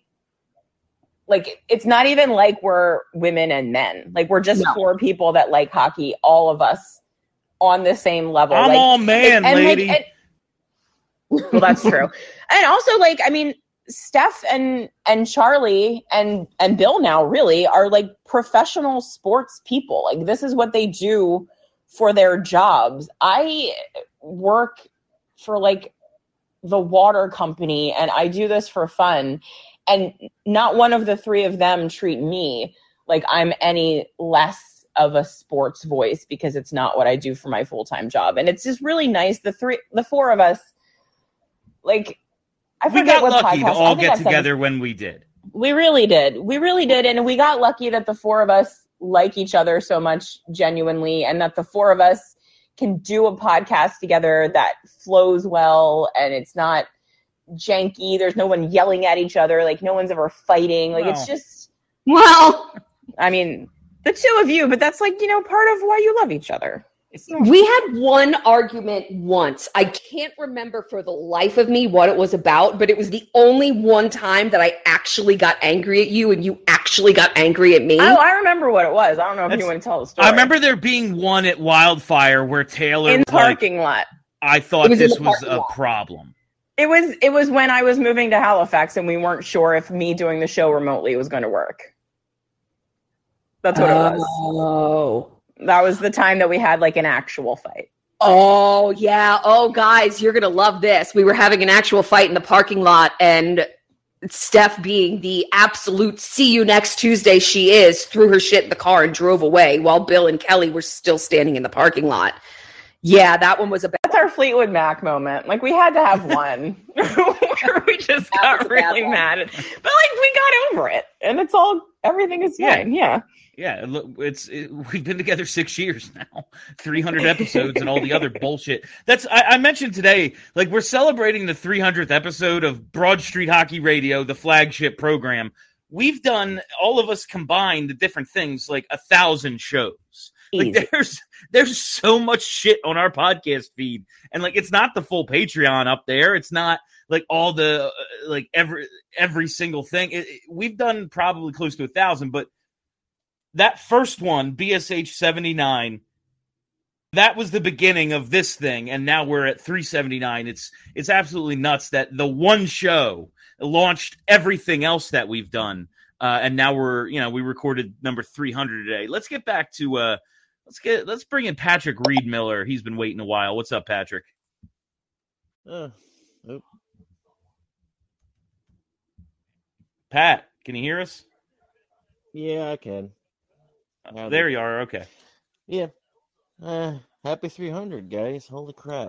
like it's not even like we're women and men. Like we're just no. four people that like hockey, all of us on the same level. I'm like, all man, and, lady. Like, and, well, that's true. And also like, I mean, Steph and, and Charlie and, and Bill now really are like professional sports people. Like this is what they do for their jobs. I work for like the water company and I do this for fun, and not one of the three of them treat me like I'm any less of a sports voice, because it's not what I do for my full-time job. And it's just really nice. The three, the four of us, like, I we forget got what lucky podcast. to all I think get I said together this. when we did. We really did. We really did. And we got lucky that the four of us like each other so much genuinely, and that the four of us can do a podcast together that flows well and it's not janky. There's no one yelling at each other. Like no one's ever fighting. Like no. It's just, well, I mean, the two of you, but that's like, you know, part of why you love each other. It's we had one argument once. I can't remember for the life of me what it was about, but it was the only one time that I actually got angry at you and you actually got angry at me. Oh, I remember what it was. I don't know if That's, you want to tell the story. I remember there being one at Wildfire where Taylor in the was parking like, lot. I thought was this was a lot. problem. It was it was when I was moving to Halifax and we weren't sure if me doing the show remotely was going to work. That's what oh. it was. Oh. That was the time that we had like an actual fight. Oh, yeah. Oh, guys, you're going to love this. We were having an actual fight in the parking lot, and Steph, being the absolute see you next Tuesday she is, threw her shit in the car and drove away while Bill and Kelly were still standing in the parking lot. Yeah, that one was a bad That's our Fleetwood Mac moment. Like, we had to have one where we just got really mad. But, like, we got over it. And it's all, everything is fine. Yeah. Yeah, look, it's it, we've been together six years now, three hundred episodes and all the other bullshit. That's I, I mentioned today, like we're celebrating the three hundredth episode of Broad Street Hockey Radio, the flagship program. We've done, all of us combined, the different things, like a thousand shows. Like Easy. there's there's so much shit on our podcast feed, and like it's not the full Patreon up there. It's not like all the uh, like every every single thing. It, it, we've done probably close to a thousand, but that first one, B S H seventy-nine, that was the beginning of this thing, and now we're at three seventy-nine. It's it's absolutely nuts that the one show launched everything else that we've done, uh, and now we're you know we recorded number three hundred today. Let's get back to uh, let's get let's bring in Patrick Reed Miller. He's been waiting a while. What's up, Patrick? Uh, oh. Pat, can you hear us? Yeah, I can. Uh, there you are. Okay. Yeah. Uh, happy three hundred, guys. Holy crap.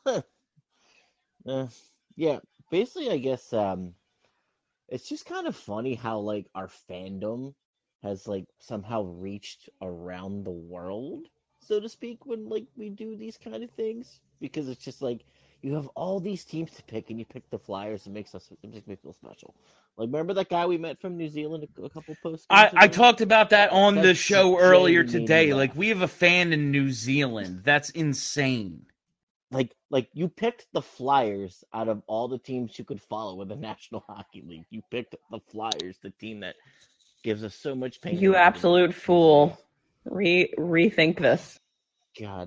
uh, yeah, basically, I guess um, it's just kind of funny how, like, our fandom has, like, somehow reached around the world, so to speak, when, like, we do these kind of things. Because it's just, like, you have all these teams to pick, and you pick the Flyers. It makes us it makes me feel special. Like, remember that guy we met from New Zealand a, a couple posts I, ago? I talked about that on That's the show earlier genuinely today. laugh. Like, we have a fan in New Zealand. That's insane. Like, like you picked the Flyers out of all the teams you could follow in the National Hockey League. You picked the Flyers, the team that gives us so much pain. You absolute fool. Re rethink this. God.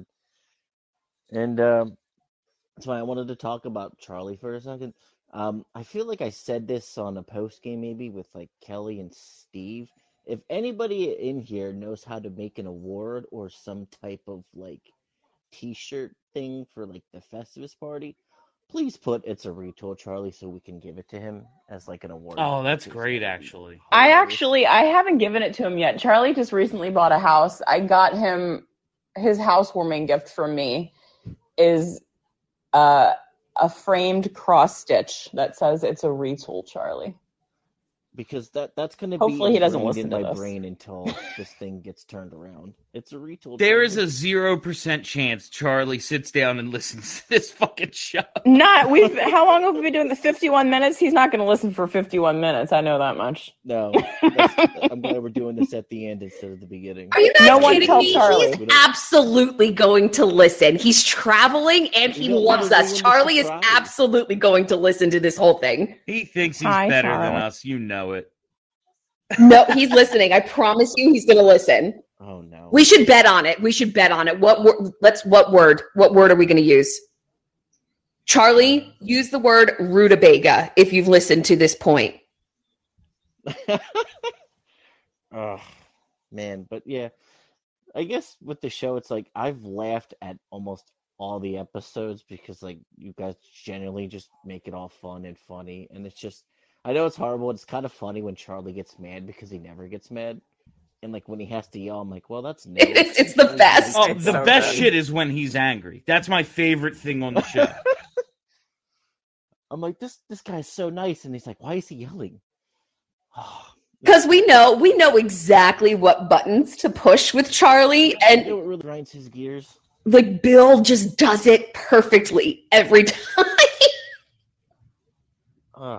And um, that's why I wanted to talk about Charlie for a second. Um, I feel like I said this on a post game maybe with like Kelly and Steve. If anybody in here knows how to make an award or some type of like t-shirt thing for like the Festivus party, please put "It's a Retool Charlie" so we can give it to him as like an award. Oh, that's great, actually. I actually, I haven't given it to him yet. Charlie just recently bought a house. I got him his housewarming gift from me is uh, a framed cross stitch that says "It's a Retool Charlie." Because that that's going to be Hopefully he doesn't ingrained listen in to my this. brain until this thing gets turned around. It's a retool. There Charlie. is a zero percent chance Charlie sits down and listens to this fucking show. Not we've. How long have we been doing the fifty-one minutes? He's not going to listen for fifty-one minutes. I know that much. No, that's, I'm glad we're doing this at the end instead of the beginning. Are you guys No one kidding tell me? Charlie. He's absolutely going to listen. He's traveling and he You don't loves wanna us. ruin the Charlie is surprise. absolutely going to listen to this whole thing. He thinks he's Hi, better than Charlie. us. You know it. No, he's listening. I promise you he's going to listen. Oh no. We should bet on it. We should bet on it. What wor- let's what word? What word are we going to use? Charlie, use the word rutabaga if you've listened to this point. Oh man, but yeah, I guess with the show, it's like I've laughed at almost all the episodes because like you guys generally just make it all fun and funny, and it's just I know it's horrible. It's kind of funny when Charlie gets mad because he never gets mad, and like when he has to yell, I'm like, well, that's nice. It's, it's the best. Oh, It's the so best good. shit is when he's angry. That's my favorite thing on the show. I'm like, this this guy's so nice, and he's like, why is he yelling? Oh, Because we know we know exactly what buttons to push with Charlie, you and know what really grinds his gears? like Bill just does it perfectly every time. Ugh.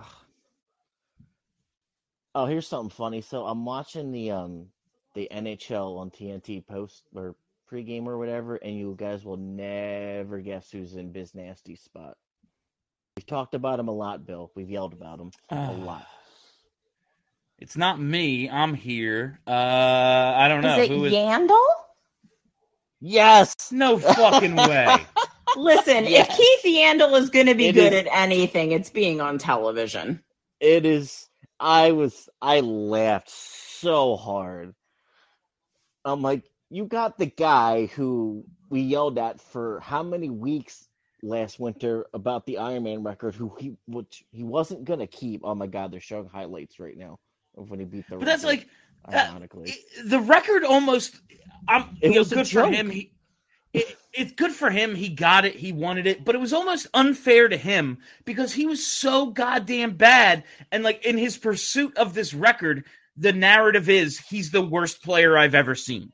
Oh, here's something funny. So I'm watching the um the N H L on T N T post or pregame or whatever, and you guys will never guess who's in Biz Nasty's spot. We've talked about him a lot, Bill. We've yelled about him a lot. It's not me. I'm here. Uh, I don't know. Is it Who is... Yandel? Yes. No fucking way. Listen, Yes. if Keith Yandel is going to be It good is- at anything, it's being on television. It is. I was. I laughed so hard. I'm like, you got the guy who we yelled at for how many weeks last winter about the Iron Man record, who he which he wasn't gonna keep. Oh my God, they're showing highlights right now of when he beat the. But that's record, like uh, ironically. the record almost. I'm It you know, was a good for joke. him. He, it, it's good for him. He got it. He wanted it. But it was almost unfair to him because he was so goddamn bad. And like in his pursuit of this record, the narrative is he's the worst player I've ever seen.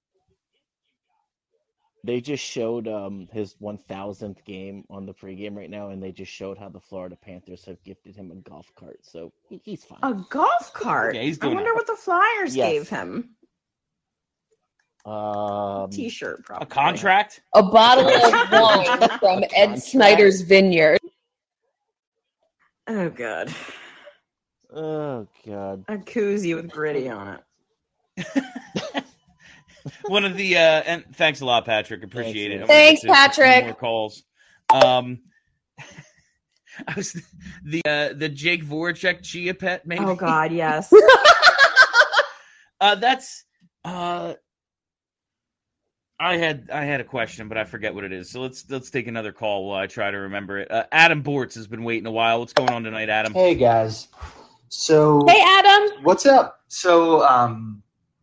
They just showed um his one thousandth game on the pregame right now, and they just showed how the Florida Panthers have gifted him a golf cart, so he, he's fine. A golf cart? Yeah, he's I doing wonder it. what the Flyers Yes. gave him. Um, T-shirt, probably. A contract. A bottle of wine from Ed Contract. Snyder's Vineyard. Oh, God. Oh God. A koozie with gritty on it. One of the uh, and thanks a lot, Patrick. Appreciate it. I'm gonna Thanks, get to a few Patrick. More calls. Um, I was the uh, the Jake Voracek Chia Pet, maybe. Oh God, yes. uh, that's uh, I had I had a question, but I forget what it is. So let's let's take another call while I try to remember it. Uh, Adam Bortz has been waiting a while. What's going on tonight, Adam? Hey guys. So Hey, Adam. what's up? So um,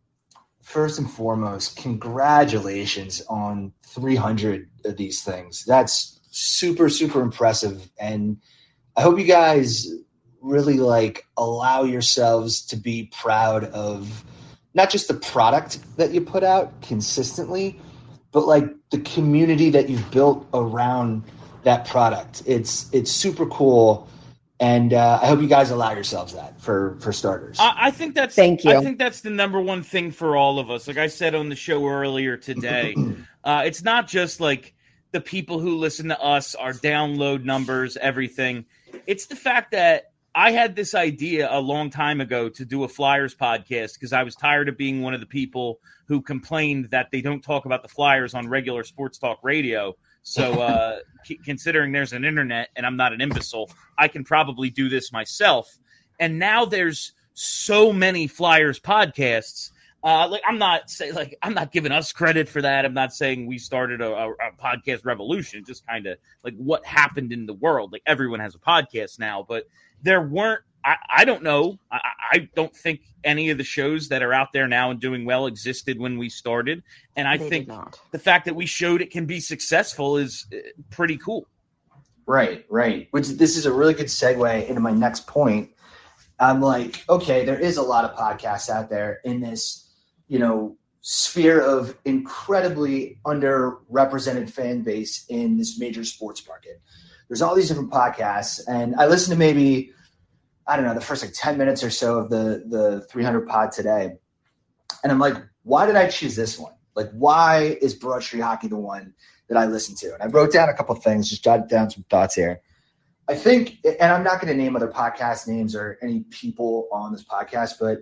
first and foremost, congratulations on three hundred of these things. That's super super impressive, and I hope you guys really like allow yourselves to be proud of not just the product that you put out consistently, but like the community that you've built around that product. It's it's super cool, and uh, I hope you guys allow yourselves that for for starters. I, I think that's Thank you. I think that's the number one thing for all of us. Like I said on the show earlier today, uh, it's not just like the people who listen to us, our download numbers, everything. It's the fact that I had this idea a long time ago to do a Flyers podcast because I was tired of being one of the people who complained that they don't talk about the Flyers on regular sports talk radio. So uh, c- considering there's an internet and I'm not an imbecile, I can probably do this myself. And now there's so many Flyers podcasts. Uh, like I'm not say like I'm not giving us credit for that. I'm not saying we started a, a, a podcast revolution. Just kind of like what happened in the world. Like everyone has a podcast now, but there weren't. I, I don't know. I, I don't think any of the shows that are out there now and doing well existed when we started. And I They think did not. the fact that we showed it can be successful is uh, pretty cool. Right, right. Which this is a really good segue into my next point. I'm like, okay, there is a lot of podcasts out there in this, you know, sphere of incredibly underrepresented fan base in this major sports market. There's all these different podcasts, and I listened to maybe, I don't know, the first like ten minutes or so of the the three hundred pod today, and I'm like, why did I choose this one? Like, why is Broad Street Hockey the one that I listen to? And I wrote down a couple of things, just jotted down some thoughts here. I think, and I'm not going to name other podcast names or any people on this podcast, but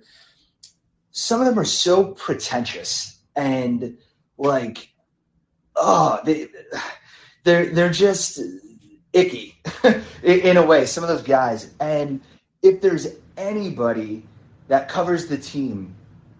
some of them are so pretentious and like, oh, they, they're they're just icky in a way. Some of those guys, and if there's anybody that covers the team,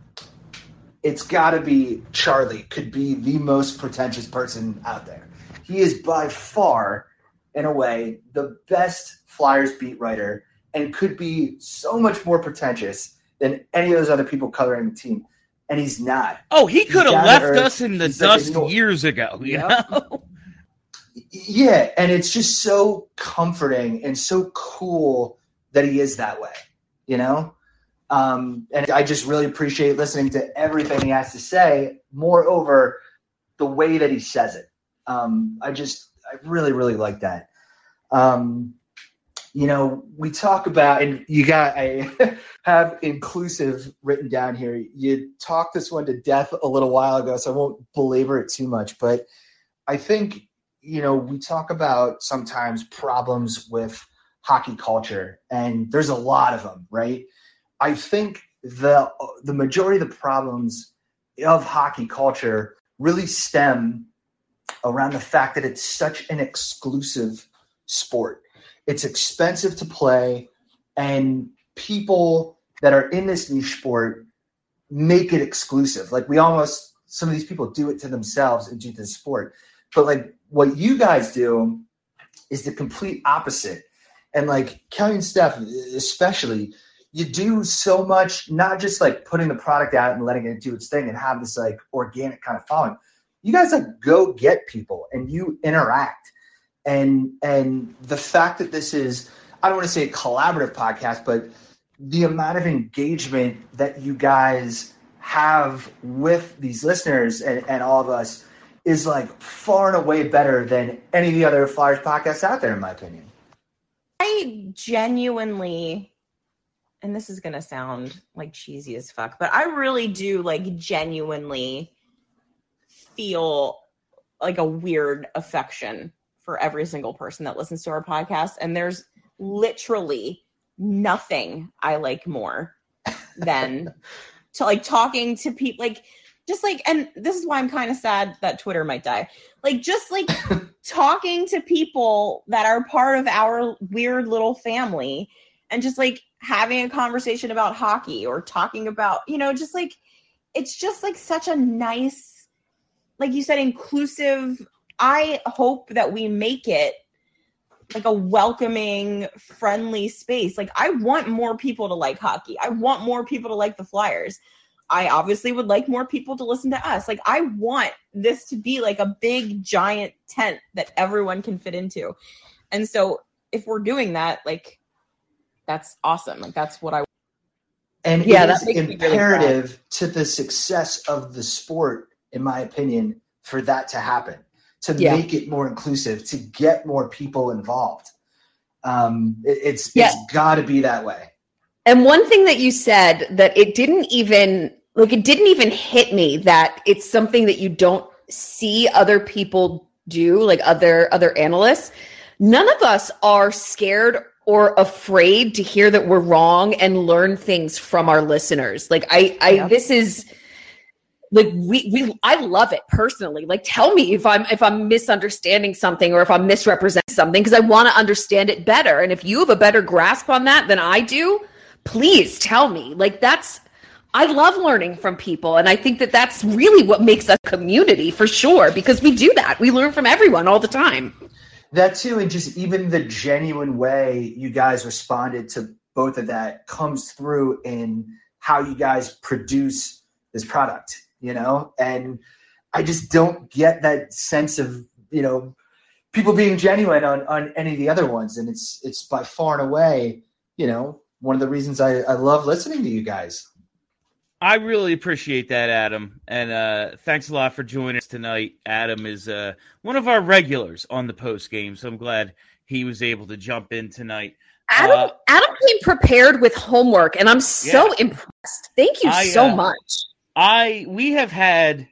it's got to be Charlie. Could be the most pretentious person out there. He is by far, in a way, the best Flyers beat writer, and could be so much more pretentious than any of those other people covering the team. And he's not. Oh, he could He's have down left to earth. us in the He's like, dust "No." years ago. You Yeah. know? Yeah, and it's just so comforting and so cool that he is that way, you know? Um, and I just really appreciate listening to everything he has to say. Moreover, the way that he says it. Um, I just, I really, really like that. Um, you know, we talk about, and you got, I have inclusive written down here. You talked this one to death a little while ago, so I won't belabor it too much, but I think, you know, we talk about sometimes problems with hockey culture, and there's a lot of them, right? I think the the majority of the problems of hockey culture really stem around the fact that it's such an exclusive sport. It's expensive to play, and people that are in this niche sport make it exclusive. Like we almost, some of these people do it to themselves and do to the sport. But like what you guys do is the complete opposite. And like Kelly and Steph, especially, you do so much, not just like putting the product out and letting it do its thing and have this like organic kind of following. You guys like go get people and you interact. And and the fact that this is, I don't want to say a collaborative podcast, but the amount of engagement that you guys have with these listeners and, and all of us is like far and away better than any of the other Flyers podcasts out there, in my opinion. I genuinely, and this is going to sound like cheesy as fuck, but I really do like genuinely feel like a weird affection for every single person that listens to our podcast. And there's literally nothing I like more than to like talking to people, like just like, and this is why I'm kind of sad that Twitter might die. Like just like talking to people that are part of our weird little family and just like having a conversation about hockey or talking about, you know, just like, it's just like such a nice, like you said, inclusive. I hope that we make it like a welcoming, friendly space. Like I want more people to like hockey. I want more people to like the Flyers. I obviously would like more people to listen to us. Like I want this to be like a big giant tent that everyone can fit into. And so if we're doing that, like that's awesome. Like that's what I And yeah, it that is makes me really imperative proud. to the success of the sport, in my opinion, for that to happen, to Yeah. make it more inclusive, to get more people involved. Um, it, it's Yeah. it's got to be that way. And one thing that you said that it didn't even like it didn't even hit me that it's something that you don't see other people do, like other other analysts. None of us are scared or afraid to hear that we're wrong and learn things from our listeners. Like I I Yeah. this is like we we I love it personally. Like tell me if I'm if I'm misunderstanding something or if I'm misrepresenting something, because I want to understand it better. And if you have a better grasp on that than I do, please tell me. Like that's I love learning from people, and I think that that's really what makes us a community for sure, because we do that. We learn from everyone all the time. That too, and just even the genuine way you guys responded to both of that comes through in how you guys produce this product, you know? And I just don't get that sense of, you know, people being genuine on, on any of the other ones. And it's it's by far and away, you know, one of the reasons I, I love listening to you guys. I really appreciate that, Adam, and uh, thanks a lot for joining us tonight. Adam is uh, one of our regulars on the post game, so I'm glad he was able to jump in tonight. Adam Uh, Adam came prepared with homework, and I'm so Yeah. impressed. Thank you I, so uh, much. I we have had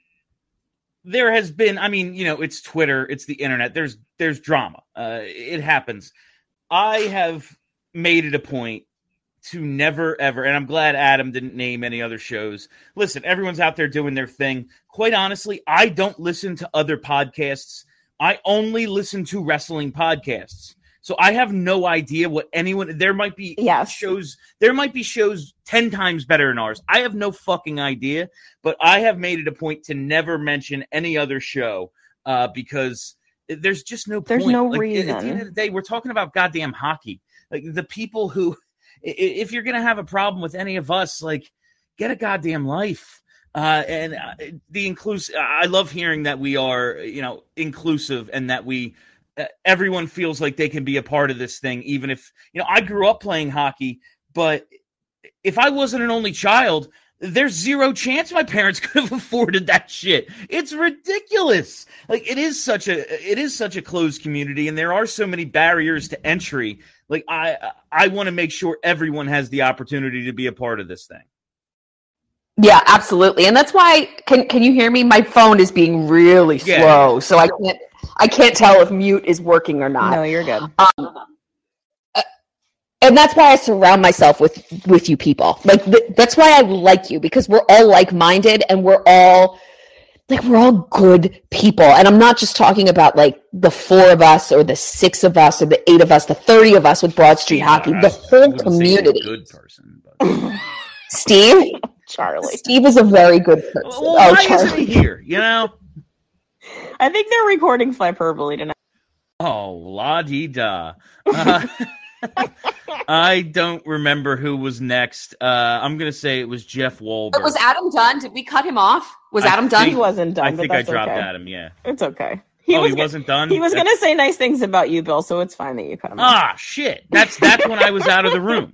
there has been I mean you know it's Twitter, it's the internet, there's there's drama, uh, it happens. I have made it a point to never ever, and I'm glad Adam didn't name any other shows. Listen, everyone's out there doing their thing. Quite honestly, I don't listen to other podcasts. I only listen to wrestling podcasts. So I have no idea what anyone, there might be Yes. shows, there might be shows ten times better than ours. I have no fucking idea, but I have made it a point to never mention any other show uh, because there's just no There's point. no Like, At the end reason. of the day, we're talking about goddamn hockey. Like the people who, i- if you're going to have a problem with any of us, like get a goddamn life. Uh, and uh, the inclusive, I love hearing that we are, you know, inclusive and that we, uh, everyone feels like they can be a part of this thing. Even if, you know, I grew up playing hockey, but if I wasn't an only child, there's zero chance my parents could have afforded that shit. It's ridiculous. Like it is such a, it is such a closed community, and there are so many barriers to entry. Like I, I want to make sure everyone has the opportunity to be a part of this thing. Yeah, absolutely. And that's why can can you hear me? My phone is being really Yeah. slow, so I can't I can't tell if mute is working or not. No, you're good. Um, uh, and that's why I surround myself with with you people. Like th- that's why I like you, because we're all like-minded and we're all like we're all good people. And I'm not just talking about like the four of us or the six of us or the eight of us, the thirty of us with Broad Street Hockey, the whole community. Good person. But... Steve, Charlie. Steve is a very good person. Well, oh, why Charlie. isn't he here? You know. I think they're recording Flyperbole tonight. Oh, la di da. Uh, I don't remember who was next. Uh, I'm gonna say it was Jeff Wahlberg. Was Adam done? Did we cut him off? Was I Adam done? think- He wasn't done, I but think I that's dropped okay. Adam. Yeah. It's okay. oh, was he go- wasn't done. He was That's- going to say nice things about you, Bill, so it's fine that you cut him off. Ah, shit. That's that's when I was out of the room.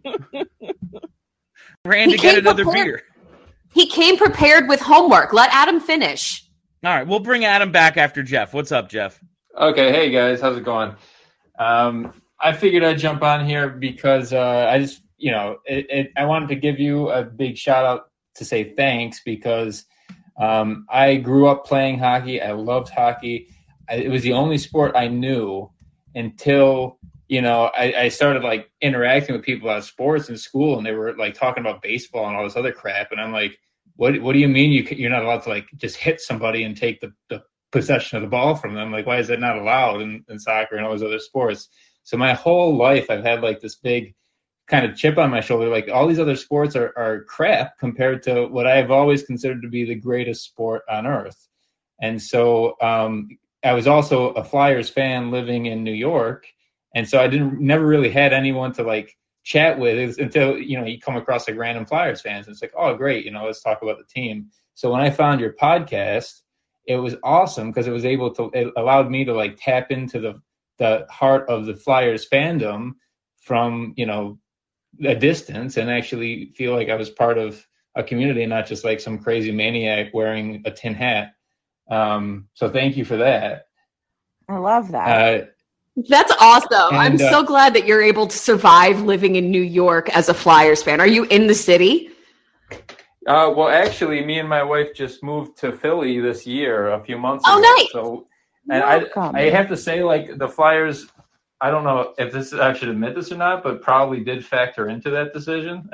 Ran He to get came another prepared. beer. He came prepared with homework. Let Adam finish. All right, we'll bring Adam back after Jeff. What's up, Jeff? Okay, hey guys, how's it going? Um, I figured I'd jump on here because uh, I just, you know, it, it, I wanted to give you a big shout out to say thanks because um, I grew up playing hockey. I loved hockey. I, it was the only sport I knew until, you know, I, I started like interacting with people about sports in school, and they were like talking about baseball and all this other crap, and I'm like, what what do you mean you you're not allowed to like just hit somebody and take the, the possession of the ball from them? Like, why is that not allowed in, in soccer and all those other sports? So my whole life I've had like this big kind of chip on my shoulder. Like all these other sports are, are crap compared to what I've always considered to be the greatest sport on earth. And so um, I was also a Flyers fan living in New York. And so I didn't never really had anyone to like chat with until, you know, you come across like random Flyers fans. And it's like, oh, great. You know, let's talk about the team. So when I found your podcast, it was awesome because it was able to, it allowed me to like tap into the, the heart of the Flyers fandom from, you know, a distance and actually feel like I was part of a community, not just like some crazy maniac wearing a tin hat. Um, so thank you for that. I love that. Uh, That's awesome. And, I'm uh, so glad that you're able to survive living in New York as a Flyers fan. Are you in the city? Uh, well, actually, me and my wife just moved to Philly this year, a few months Oh, ago. nice. So, and I, I have to say, like the Flyers, I don't know if this I should admit this or not, but probably did factor into that decision.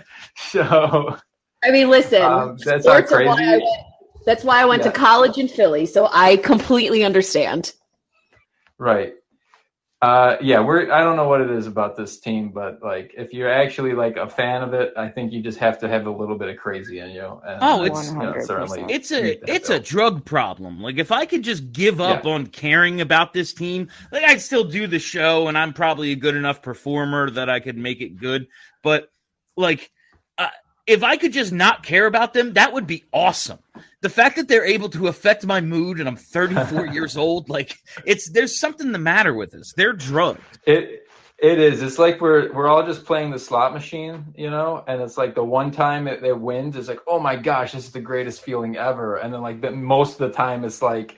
So, I mean, listen, um, that's not sports are why crazy. I went, that's why I went Yeah. to college in Philly, so I completely understand. Right. Uh, yeah, we're. I don't know what it is about this team, but like, if you're actually like a fan of it, I think you just have to have a little bit of crazy in you. And, Oh, it's you know, certainly it's meet a that it's bill. a drug problem. Like if I could just give up Yeah. on caring about this team, like I'd still do the show, and I'm probably a good enough performer that I could make it good. But like, uh, if I could just not care about them, that would be awesome. The fact that they're able to affect my mood, and I'm thirty-four years old, like it's there's something the matter with us. They're drugged. It it is. It's like we're we're all just playing the slot machine, you know. And it's like the one time it, it wins, it's like, oh my gosh, this is the greatest feeling ever. And then like the, most of the time, it's like,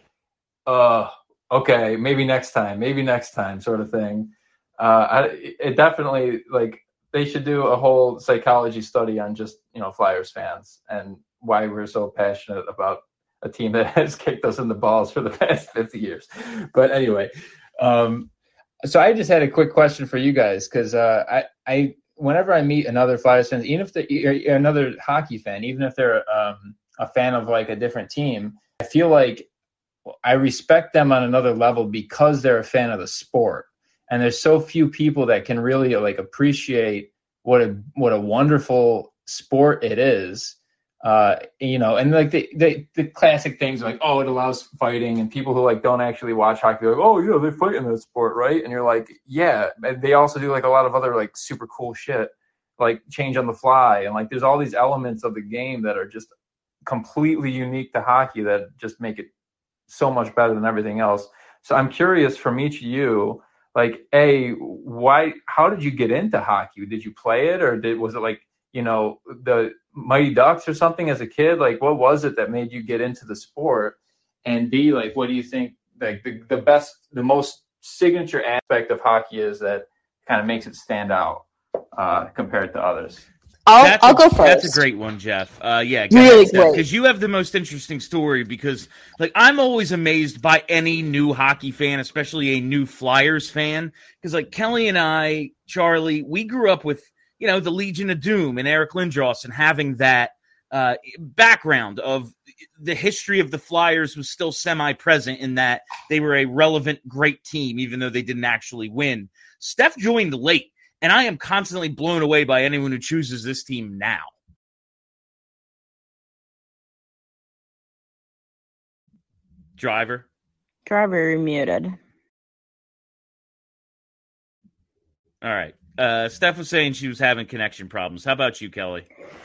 uh, okay, maybe next time, maybe next time, sort of thing. Uh, I, it definitely like they should do a whole psychology study on just you know Flyers fans and why we're so passionate about a team that has kicked us in the balls for the past fifty years. But anyway, um, so I just had a quick question for you guys because uh, I, I, whenever I meet another Flyers fan, even if they're another hockey fan, even if they're um, a fan of like a different team, I feel like I respect them on another level because they're a fan of the sport. And there's so few people that can really like appreciate what a what a wonderful sport it is. Uh, you know, and like the, the the classic things like, oh, it allows fighting, and people who like don't actually watch hockey, they're like, oh, yeah, they fight in that sport, right? And you're like, yeah, they also do like a lot of other like super cool shit, like change on the fly, and like there's all these elements of the game that are just completely unique to hockey that just make it so much better than everything else. So I'm curious from each of you, like, A, why, how did you get into hockey? Did you play it, or did was it like, you know, the Mighty Ducks or something as a kid? Like, what was it that made you get into the sport? And B, like, what do you think like the, the best, the most signature aspect of hockey is that kind of makes it stand out uh, compared to others? I'll, That's I'll a, go first. That's a great one, Jeff. Uh, yeah, Really great. because you have the most interesting story. Because, like, I'm always amazed by any new hockey fan, especially a new Flyers fan. Because, like, Kelly and I, Charlie, we grew up with, you know, the Legion of Doom and Eric Lindros, and having that uh, background of the history of the Flyers was still semi-present in that they were a relevant, great team, even though they didn't actually win. Steph joined late. And I am constantly blown away by anyone who chooses this team now. Driver. Driver, you're muted. All right. Uh, Steph was saying she was having connection problems. How about you, Kelly?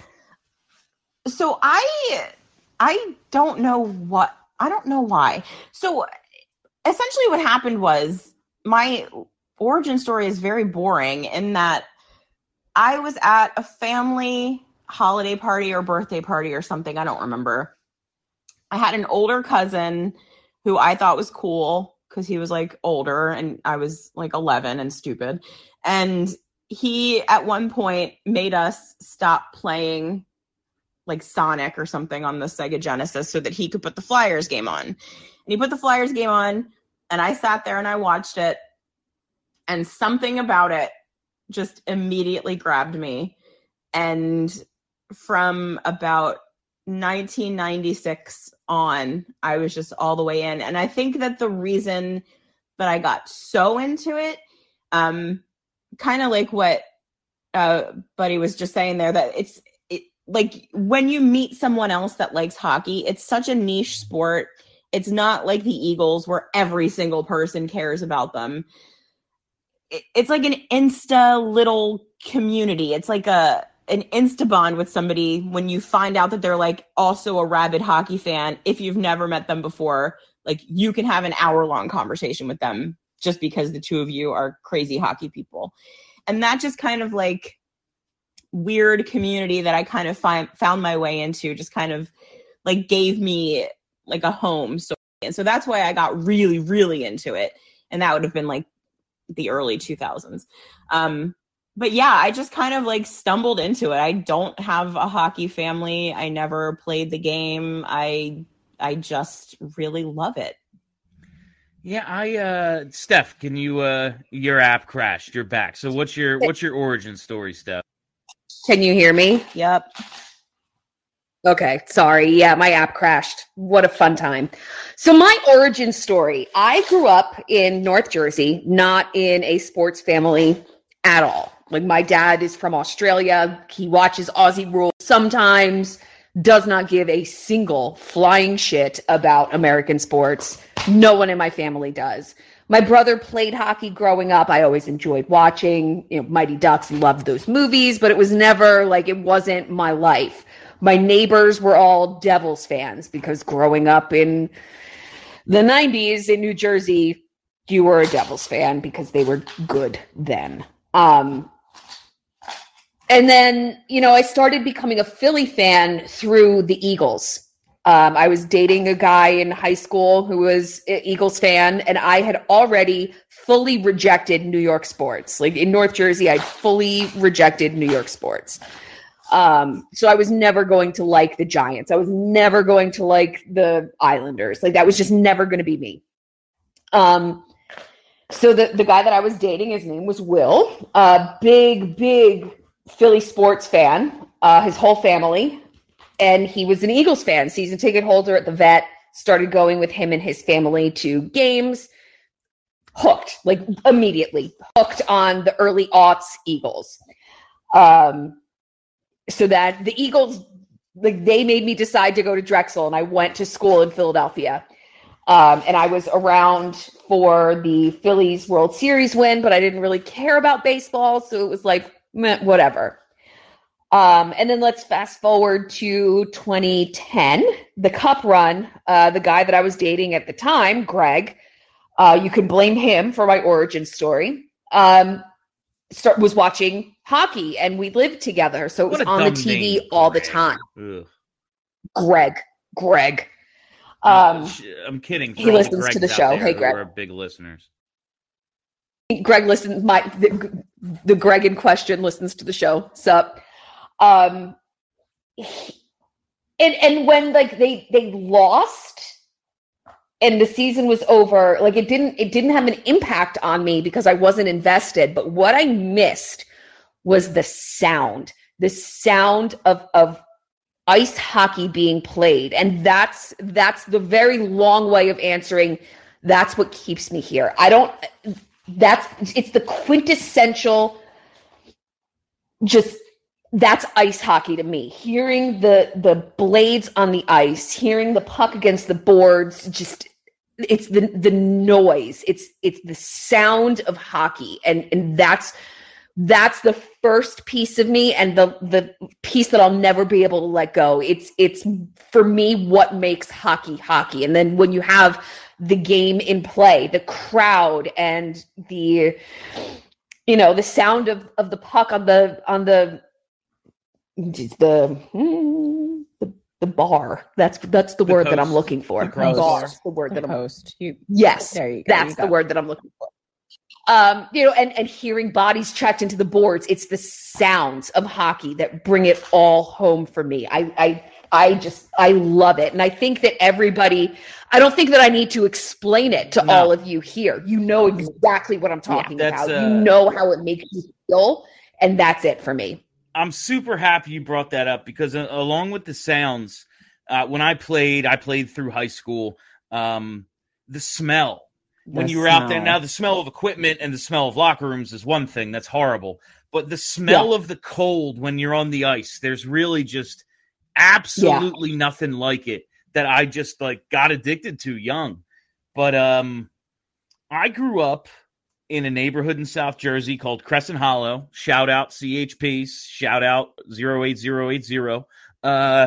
So I I don't know what I don't know why. So essentially what happened was my origin story is very boring in that I was at a family holiday party or birthday party or something. I don't remember. I had an older cousin who I thought was cool because he was like older and I was like eleven and stupid. And he at one point made us stop playing like Sonic or something on the Sega Genesis so that he could put the Flyers game on. And he put the Flyers game on and I sat there and I watched it. And something about it just immediately grabbed me. And from about nineteen ninety-six on, I was just all the way in. And I think that the reason that I got so into it, um, kind of like what uh, Buddy was just saying there, that it's it, like when you meet someone else that likes hockey, it's such a niche sport. It's not like the Eagles where every single person cares about them. It, it's like an Insta little community. It's like a an Insta bond with somebody when you find out that they're like also a rabid hockey fan. If you've never met them before, like you can have an hour long conversation with them just because the two of you are crazy hockey people. And that just kind of like weird community that I kind of find, found my way into just kind of like gave me like a home. So, and so that's why I got really, really into it. And that would have been like the early two thousands. Um, But yeah, I just kind of like stumbled into it. I don't have a hockey family. I never played the game. I I just really love it. Yeah, I uh Steph, can you uh your app crashed. You're back. So what's your what's your origin story, Steph? Can you hear me? Yep. Okay, sorry. Yeah, my app crashed. What a fun time. So my origin story, I grew up in North Jersey, not in a sports family at all. Like my dad is from Australia. He watches Aussie rules sometimes, does not give a single flying shit about American sports. No one in my family does. My brother played hockey growing up. I always enjoyed watching, you know, Mighty Ducks and loved those movies, but it was never like, it wasn't my life. My neighbors were all Devils fans because growing up in the nineties in New Jersey, you were a Devils fan because they were good then. Um, and then, you know, I started becoming a Philly fan through the Eagles. Um, I was dating a guy in high school who was an Eagles fan, and I had already fully rejected New York sports. Like in North Jersey, I'd fully rejected New York sports. Um, so I was never going to like the Giants. I was never going to like the Islanders. Like that was just never going to be me. Um, So the, the guy that I was dating, his name was Will, a big, big Philly sports fan, uh, his whole family. And he was an Eagles fan, season ticket holder at the Vet, started going with him and his family to games. Hooked, like immediately hooked on the early aughts Eagles. Um, so that the Eagles, like they made me decide to go to Drexel, and I went to school in Philadelphia. Um, and I was around for the Phillies World Series win, but I didn't really care about baseball. So it was like, meh, whatever. Um, and then let's fast forward to twenty ten, the Cup run. Uh, the guy that I was dating at the time, Greg, uh, you can blame him for my origin story, um, start, was watching hockey, and we lived together. So it was on the T V name, all Greg. the time. Ugh. Greg, Greg. Um, I'm kidding. He listens to the show. Hey, Greg. We're big listeners. Greg listens. My the, the Greg in question listens to the show. Sup? Um, and and when like they they lost and the season was over, like it didn't it didn't have an impact on me because I wasn't invested. But what I missed was the sound, the sound of of. ice hockey being played. And that's that's the very long way of answering. That's what keeps me here. I don't that's it's the quintessential just that's ice hockey to me. Hearing the the blades on the ice, hearing the puck against the boards, just it's the the noise. It's it's the sound of hockey. And and that's That's the first piece of me, and the the piece that I'll never be able to let go. It's it's for me what makes hockey hockey. And then when you have the game in play, the crowd, and the you know the sound of, of the puck on the on the the the, the bar. That's that's the, the word post. that I'm looking for. The bar. The word the that I'm post. You, yes, there you go. That's you the word that I'm looking for. Um, you know, and, and hearing bodies tracked into the boards, it's the sounds of hockey that bring it all home for me. I, I, I just, I love it. And I think that everybody, I don't think that I need to explain it to no. all of you here. You know exactly what I'm talking yeah, about. Uh, you know how it makes you feel. And that's it for me. I'm super happy you brought that up because uh, along with the sounds, uh, when I played, I played through high school. Um, the smell when The you were out there. smell. Now, the smell of equipment and the smell of locker rooms is one thing. That's horrible. But the smell Yeah. of the cold when you're on the ice, there's really just absolutely nothing like it that I just like got addicted to young. But um, I grew up in a neighborhood in South Jersey called Crescent Hollow. Shout out C H P. Shout out zero eight zero eight zero. Uh,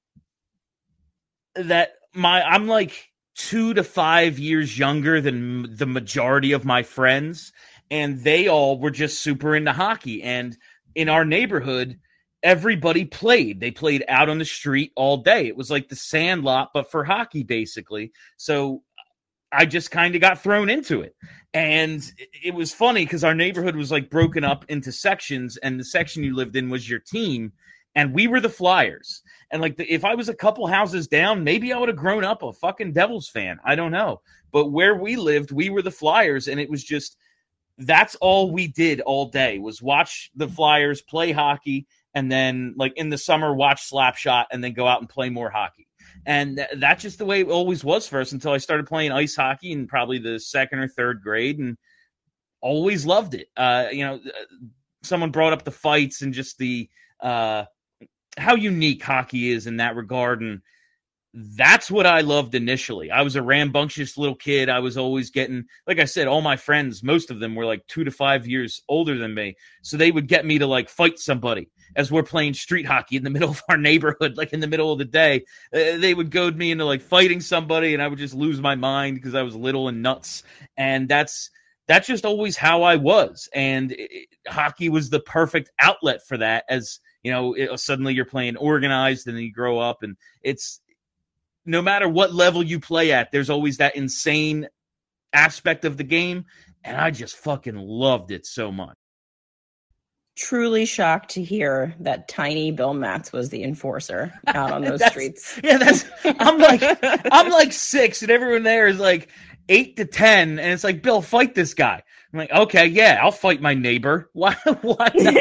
that my I'm like two to five years younger than the majority of my friends, and they all were just super into hockey. And in our neighborhood, everybody played. They played out on the street all day. It was like the Sandlot, but for hockey, basically. So I just kind of got thrown into it. And it was funny because our neighborhood was like broken up into sections, and the section you lived in was your team, and we were the Flyers. And like the, if I was a couple houses down, maybe I would have grown up a fucking Devils fan. I don't know. But where we lived, we were the Flyers, and it was just that's all we did all day was watch the Flyers play hockey, and then like in the summer watch Slapshot, and then go out and play more hockey. And th- that's just the way it always was for us until I started playing ice hockey in probably the second or third grade, and always loved it. Uh, you know, someone brought up the fights and just the uh, how unique hockey is in that regard, and that's what I loved initially. I was a rambunctious little kid. I was always getting, like I said, all my friends, most of them were like two to five years older than me, so they would get me to like fight somebody as we're playing street hockey in the middle of our neighborhood, like in the middle of the day. Uh, they would goad me into like fighting somebody, and I would just lose my mind because I was little and nuts. And that's that's just always how I was. And it, hockey was the perfect outlet for that. As you know, it, suddenly you're playing organized, and then you grow up, and it's no matter what level you play at, there's always that insane aspect of the game, and I just fucking loved it so much. Truly shocked to hear that tiny Bill Matz was the enforcer out on those That's- streets. Yeah, that's. I'm like, I'm like six, and everyone there is like eight to ten, and it's like, Bill, fight this guy. I'm like, okay, yeah, I'll fight my neighbor. Why? Why not?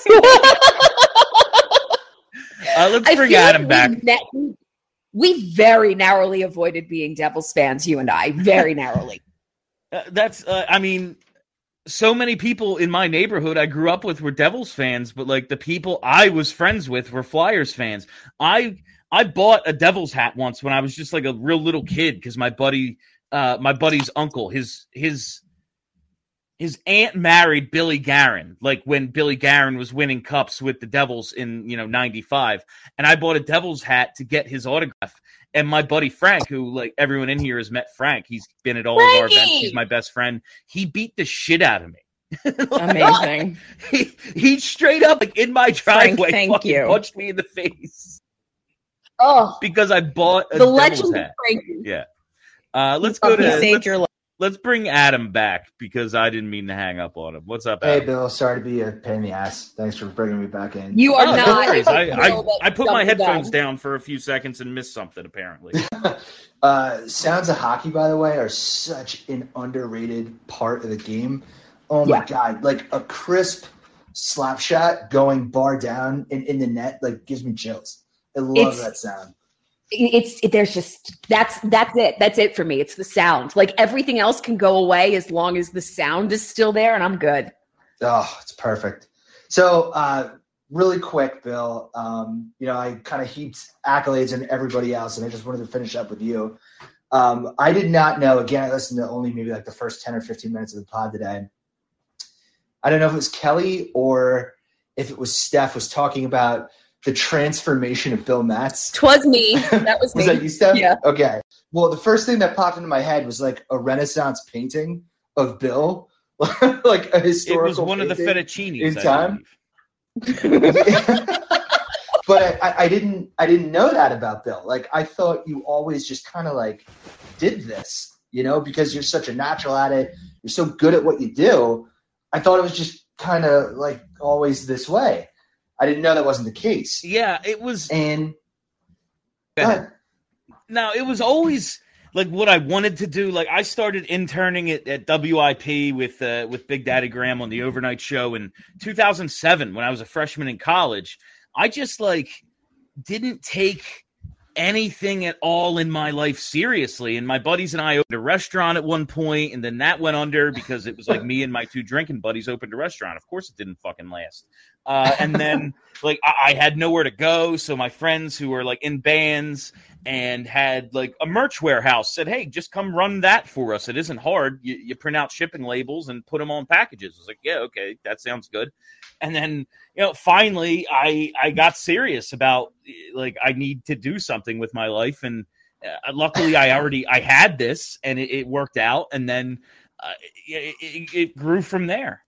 uh, let's I bring feel Adam like back. We, ne- we very narrowly avoided being Devils fans, you and I, very narrowly. Uh, that's. Uh, I mean. So many people in my neighborhood I grew up with were Devils fans, but like the people I was friends with were Flyers fans. I I bought a Devils hat once when I was just like a real little kid because my buddy, uh, my buddy's uncle, his his his aunt married Billy Guerin, like when Billy Guerin was winning cups with the Devils in you know ninety-five, and I bought a Devils hat to get his autograph. And my buddy Frank, who like everyone in here has met Frank, he's been at all Frankie! of our events. He's my best friend. He beat the shit out of me. Amazing. he, he straight up like in my Frank, driveway thank fucking you. punched me in the face Oh, because I bought a the Devils legend of hat. Frankie. Yeah. Uh, let's Oh, go to He saved let's, your life. let's bring Adam back because I didn't mean to hang up on him. What's up, Hey, Adam? Bill. Sorry to be a pain in the ass. Thanks for bringing me back in. You are Oh, no not. worries. I, I, Bill that I put my jumped the headphones gun. down for a few seconds and missed something, apparently. Uh, sounds of hockey, by the way, are such an underrated part of the game. Oh my Yeah. god! Like a crisp slap shot going bar down in, in the net, like gives me chills. I love It's- that sound. It's it, there's just that's that's it. That's it for me. It's the sound. Like everything else can go away as long as the sound is still there, and I'm good. Oh, it's perfect. So, uh, really quick, Bill. Um, you know, I kind of heaped accolades on everybody else, and I just wanted to finish up with you. Um, I did not know. Again, I listened to only maybe like the first ten or fifteen minutes of the pod today. I don't know if it was Kelly or if it was Steph was talking about the transformation of Bill Matz. Twas me. That was me. Was that you, Steph? Yeah. Okay. Well, the first thing that popped into my head was like a Renaissance painting of Bill, like a It historical. was one of the painting fettuccinis. in I time. believe. But I, I didn't. I didn't know that about Bill. Like I thought you always just kind of like did this, you know, because you're such a natural at it. You're so good at what you do. I thought it was just kind of like always this way. I didn't know that wasn't the case. Yeah, it was. And Go go ahead. ahead. No, it was always. like what I wanted to do. Like I started interning at, at W I P with uh, with Big Daddy Graham on the overnight show in two thousand seven when I was a freshman in college. I just like didn't take anything at all in my life seriously. And my buddies and I opened a restaurant at one point, and then that went under because it was like me and my two drinking buddies opened a restaurant. Of course it didn't fucking last. Uh, and then like I, I had nowhere to go. So my friends who were like in bands and had like a merch warehouse said, hey, just come run that for us. It isn't hard. You, you print out shipping labels and put them on packages. I was like, yeah, okay, that sounds good. And then, you know, finally I, I got serious about like, I need to do something with my life. And uh, luckily I already, I had this and it, it worked out. And then uh, it, it, it grew from there.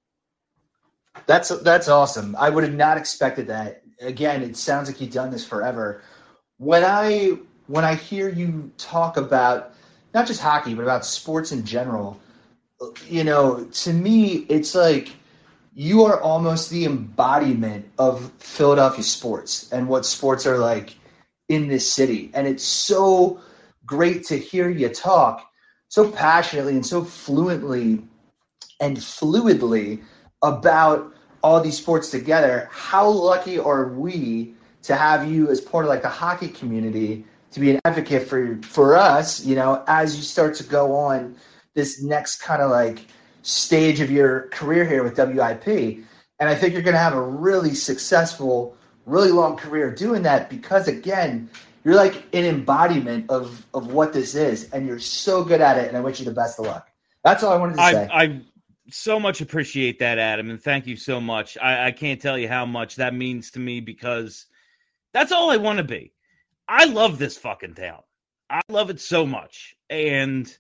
That's that's awesome. I would have not expected that. Again, it sounds like you've done this forever. When I when I hear you talk about not just hockey, but about sports in general, you know, to me, it's like you are almost the embodiment of Philadelphia sports and what sports are like in this city. And it's so great to hear you talk so passionately and so fluently and fluidly about all these sports together. How lucky are we to have you as part of like the hockey community to be an advocate for for us, you know, as you start to go on this next kind of like stage of your career here with W I P. And I think you're going to have a really successful, really long career doing that because, again, you're like an embodiment of, of what this is, and you're so good at it, and I wish you the best of luck. That's all I wanted to I, say. I so much appreciate that, Adam, and thank you so much. I, I can't tell you how much that means to me because that's all I want to be. I love this fucking town. I love it so much, and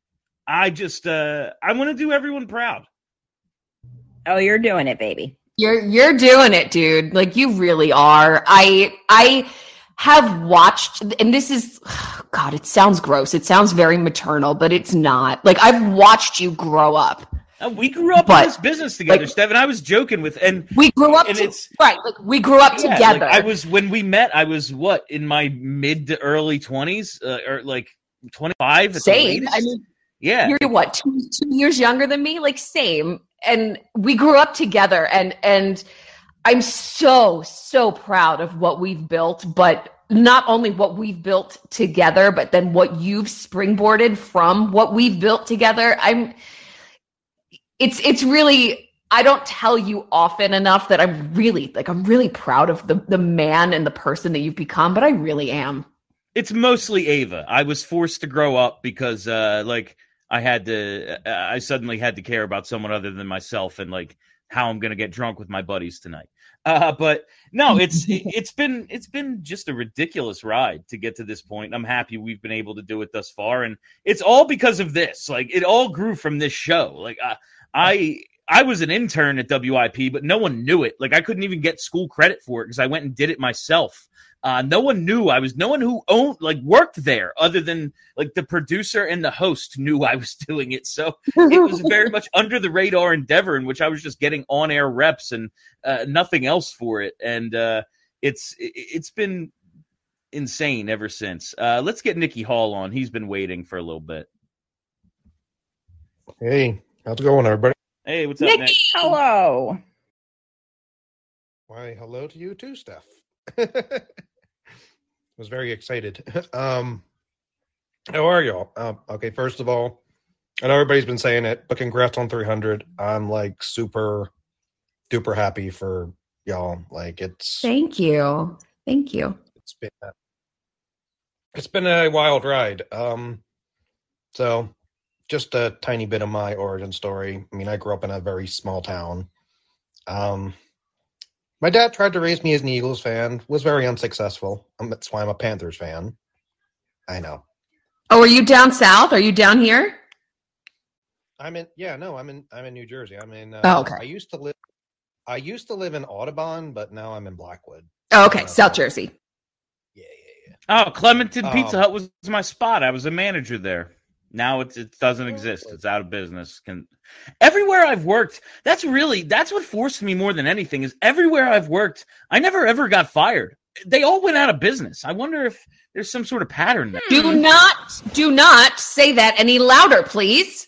I just uh, I want to do everyone proud. Oh, you're doing it, baby. You're you're doing it, dude. Like you really are. I I have watched, and this is, God, it sounds gross. It sounds very maternal, but it's not. Like I've watched you grow up. Uh, we grew up But, in this business together, like, Steph, and I was joking with, and We grew up and to, it's right. Like we grew up yeah, together. like, I was when we met. I was what in my mid to early twenties, uh, or like twenty five. At the Same. latest. I mean, yeah. You're what, two, two years younger than me? Like same. And we grew up together, and and I'm so, so proud of what we've built, but not only what we've built together, but then what you've springboarded from what we've built together. I'm it's it's really, I don't tell you often enough that I'm really like I'm really proud of the the man and the person that you've become, but I really am. It's mostly Ava. I was forced to grow up because, uh, like, I had to. I suddenly had to care about someone other than myself, and like how I'm gonna get drunk with my buddies tonight. Uh, but no, it's it's been it's been just a ridiculous ride to get to this point. I'm happy we've been able to do it thus far, and it's all because of this. Like, it all grew from this show. Like, I I, I was an intern at W I P, but no one knew it. Like, I couldn't even get school credit for it because I went and did it myself. Uh, no one knew I was, no one who owned, like worked there other than like the producer and the host knew I was doing it. So it was very much under the radar endeavor in which I was just getting on air reps and uh, nothing else for it. And uh, it's, it's been insane ever since. Uh, let's get Nicky Hall on. He's been waiting for a little bit. Hey, how's it going, everybody? Hey, what's up, Nicky, Nick? hello. Why, hello to you too, Steph. Was very excited. Um, how are y'all? Um, okay, first of all, I know everybody's been saying it, but congrats on three hundred. I'm like super duper happy for y'all. Like it's Thank you. Thank you. it's been a, it's been a wild ride. Um, so just a tiny bit of my origin story. I mean, I grew up in a very small town. Um, my dad tried to raise me as an Eagles fan, was very unsuccessful. Um, that's why I'm a Panthers fan. I know. Oh, are you down south? Are you down here? I'm in. Yeah, no, I'm in. I'm in New Jersey. I'm in. Uh, Oh, okay. I used to live. I used to live in Audubon, but now I'm in Blackwood. Oh, okay. South Jersey. Oh, Clementon Um, Pizza Hut was my spot. I was a manager there. Now it's, it doesn't exist. It's out of business. Can everywhere I've worked, that's really that's what forced me more than anything. Is everywhere I've worked, I never ever got fired. they all went out of business. I wonder if there's some sort of pattern there. Do not, do not say that any louder, please.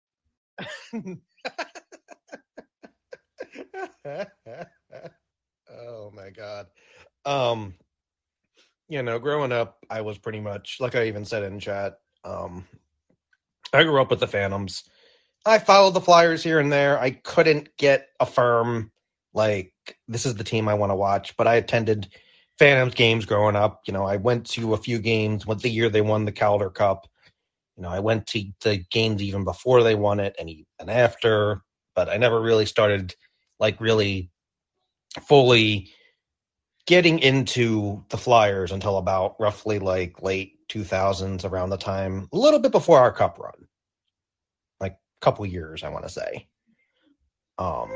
Oh my God. Um, you know, growing up, I was pretty much, like I even said in chat, um, I grew up with the Phantoms. I followed the Flyers here and there. I couldn't get a firm, like, this is the team I want to watch, but I attended Phantoms games growing up. You know, I went to a few games with the year they won the Calder Cup. You know, I went to the games even before they won it and even after, but I never really started, like, really fully getting into the Flyers until about roughly, like, late two thousands, around the time, a little bit before our Cup run. Like, a couple years, I want to say. Um,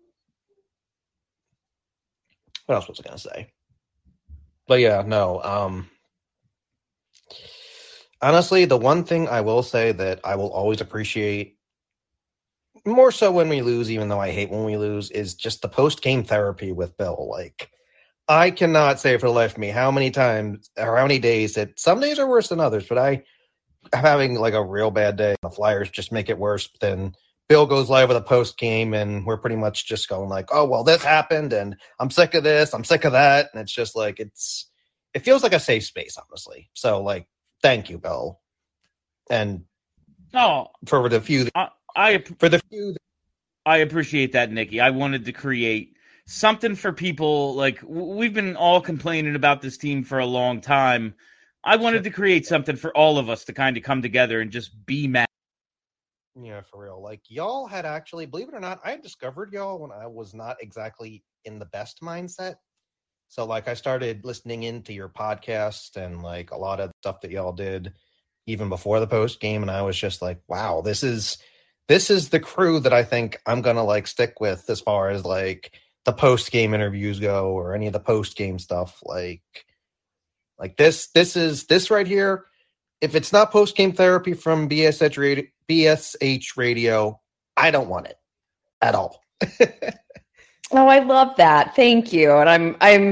what else was I going to say? But yeah, no. Um, honestly, the one thing I will say that I will always appreciate, more so when we lose, even though I hate when we lose, is just the post-game therapy with Bill. Like, I cannot say for the life of me how many times or how many days that some days are worse than others, but I am having like a real bad day. The Flyers just make it worse. Then Bill goes live with a post game and we're pretty much just going like, oh, well, this happened and I'm sick of this. I'm sick of that. And it's just like, it's, it feels like a safe space, honestly. So like, thank you, Bill. And oh, for the few, I, I for the few, I appreciate that, Nikki. I wanted to create something for people. Like, we've been all complaining about this team for a long time. I wanted to create something for all of us to kind of come together and just be mad. Yeah, for real. Like, y'all had actually, believe it or not, I had discovered y'all when I was not exactly in the best mindset. So, like, I started listening into your podcast and, like, a lot of stuff that y'all did even before the post game, and I was just like, wow, this is this is the crew that I think I'm gonna, like, stick with as far as, like, the post-game interviews go or any of the post-game stuff. Like, like this, this is this right here. If it's not post-game therapy from B S H radio, B S H radio, I don't want it at all. Oh, I love that. Thank you. And I'm, I'm,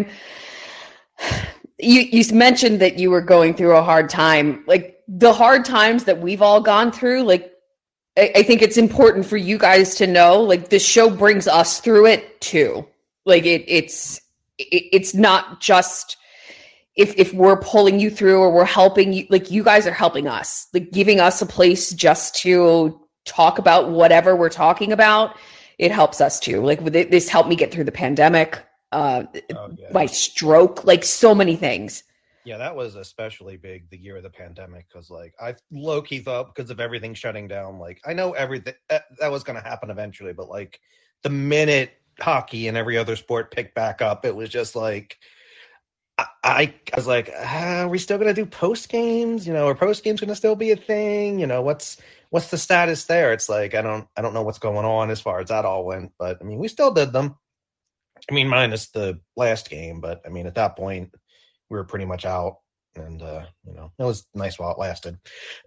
you, you mentioned that you were going through a hard time, like the hard times that we've all gone through. Like, I, I think it's important for you guys to know, like, the show brings us through it too. Like it, it's, it, it's not just if, if we're pulling you through or we're helping you, like you guys are helping us, like giving us a place just to talk about whatever we're talking about. It helps us too. Like this helped me get through the pandemic, uh, oh, yeah. my stroke, like so many things. Yeah, that was especially big the year of the pandemic because, like, I low-key thought because of everything shutting down, like, I know everything that, that was going to happen eventually, but, like, the minute hockey and every other sport picked back up, it was just like, I, I, I was like, ah, are we still going to do post-games? You know, are post-games going to still be a thing? You know, what's what's the status there? It's like, I don't I don't know what's going on as far as that all went, but, I mean, we still did them. I mean, minus the last game, but, I mean, at that point, we were pretty much out, and, uh, you know, it was nice while it lasted.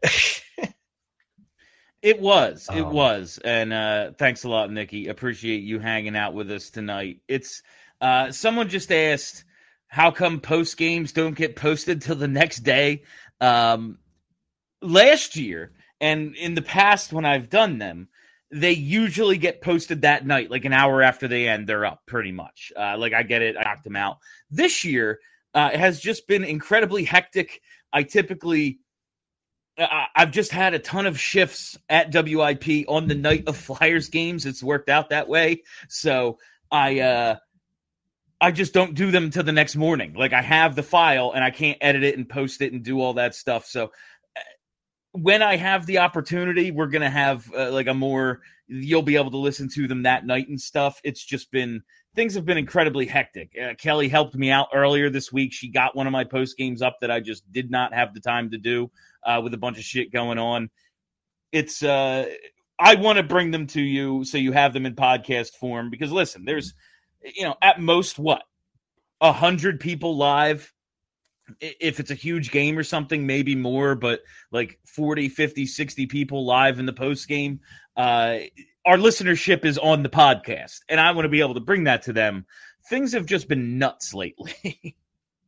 It was. It um, was. And uh, thanks a lot, Nikki. Appreciate you hanging out with us tonight. It's uh, someone just asked, how come post games don't get posted till the next day? Um, last year, and in the past when I've done them, they usually get posted that night, like an hour after they end, they're up pretty much. Uh, like I get it, I knocked them out. This year, Uh, it has just been incredibly hectic. I typically, uh, I've just had a ton of shifts at W I P on the night of Flyers games. It's worked out that way. So I, uh, I just don't do them till the next morning. Like I have the file and I can't edit it and post it and do all that stuff. So when I have the opportunity, we're going to have uh, like a more, you'll be able to listen to them that night and stuff. It's just been, things have been incredibly hectic. Uh, Kelly helped me out earlier this week. She got one of my post games up that I just did not have the time to do uh, with a bunch of shit going on. It's, uh, I want to bring them to you so you have them in podcast form because listen, there's, you know, at most what, a hundred people live. If it's a huge game or something, maybe more, but like forty, fifty, sixty people live in the post game. Uh, our listenership is on the podcast, and I want to be able to bring that to them. Things have just been nuts lately.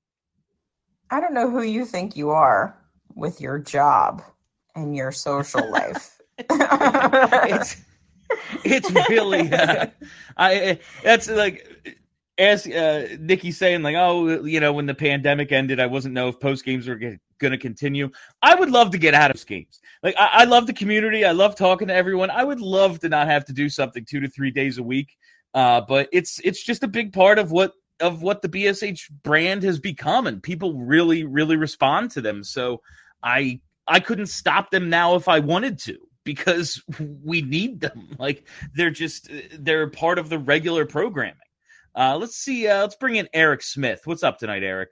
I don't know who you think you are with your job and your social life. it's it's really uh, I that's like as uh, Nikki saying like, oh, you know, when the pandemic ended, I wasn't know if post games were going to continue. I would love to get out of games. Like I, I love the community. I love talking to everyone. I would love to not have to do something two to three days a week. Uh, but it's it's just a big part of what of what the B S H brand has become, and people really really respond to them. So I I couldn't stop them now if I wanted to, because we need them. Like they're just they're part of the regular programming. Uh, let's see. Uh, let's bring in Eric Smith. What's up tonight, Eric?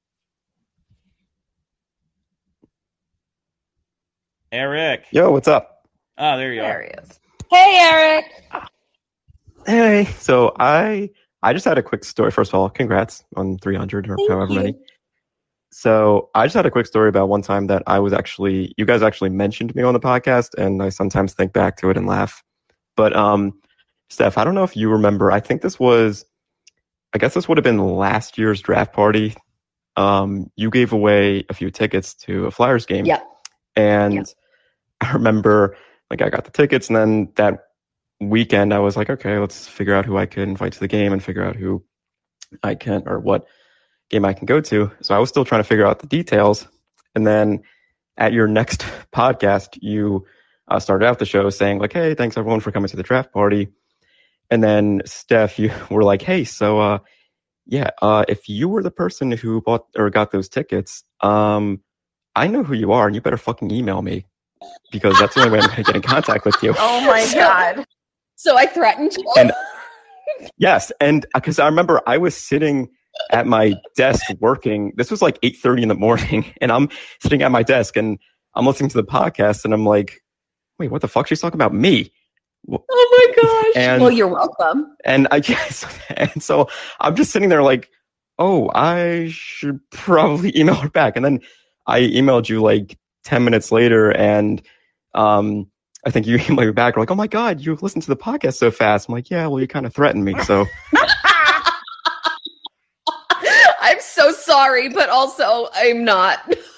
Eric. Yo, what's up? Oh, there you There are. he is. Hey, Eric. Hey. So I I just had a quick story. First of all, congrats on three hundred or Thank however you. many. So I just had a quick story about one time that I was actually, you guys actually mentioned me on the podcast, and I sometimes think back to it and laugh. But um, Steph, I don't know if you remember. I think this was, I guess this would have been last year's draft party. Um, you gave away a few tickets to a Flyers game. Yeah. And Yeah. I remember, like, I got the tickets, and then that weekend I was like, okay, let's figure out who I can invite to the game and figure out who I can, or what game I can go to. So I was still trying to figure out the details. And then at your next podcast, you uh, started out the show saying like, hey, thanks everyone for coming to the draft party. And then Steph, you were like, hey, so uh, yeah, uh, if you were the person who bought or got those tickets, um, I know who you are, and you better fucking email me, because that's the only way I'm going to get in contact with you. Oh my God. So I threatened you. And yes, and because I remember I was sitting at my desk working. This was like eight thirty in the morning, and I'm sitting at my desk and I'm listening to the podcast, and I'm like, wait, what the fuck? She's talking about me. Oh my gosh. And- well, you're welcome. And I guess, and so I'm just sitting there like, oh, I should probably email her back. And then I emailed you like ten minutes later, and um, I think you emailed me back. Like, oh my God, you listened to the podcast so fast. I'm like, yeah, well, you kind of threatened me. So I'm so sorry, but also I'm not.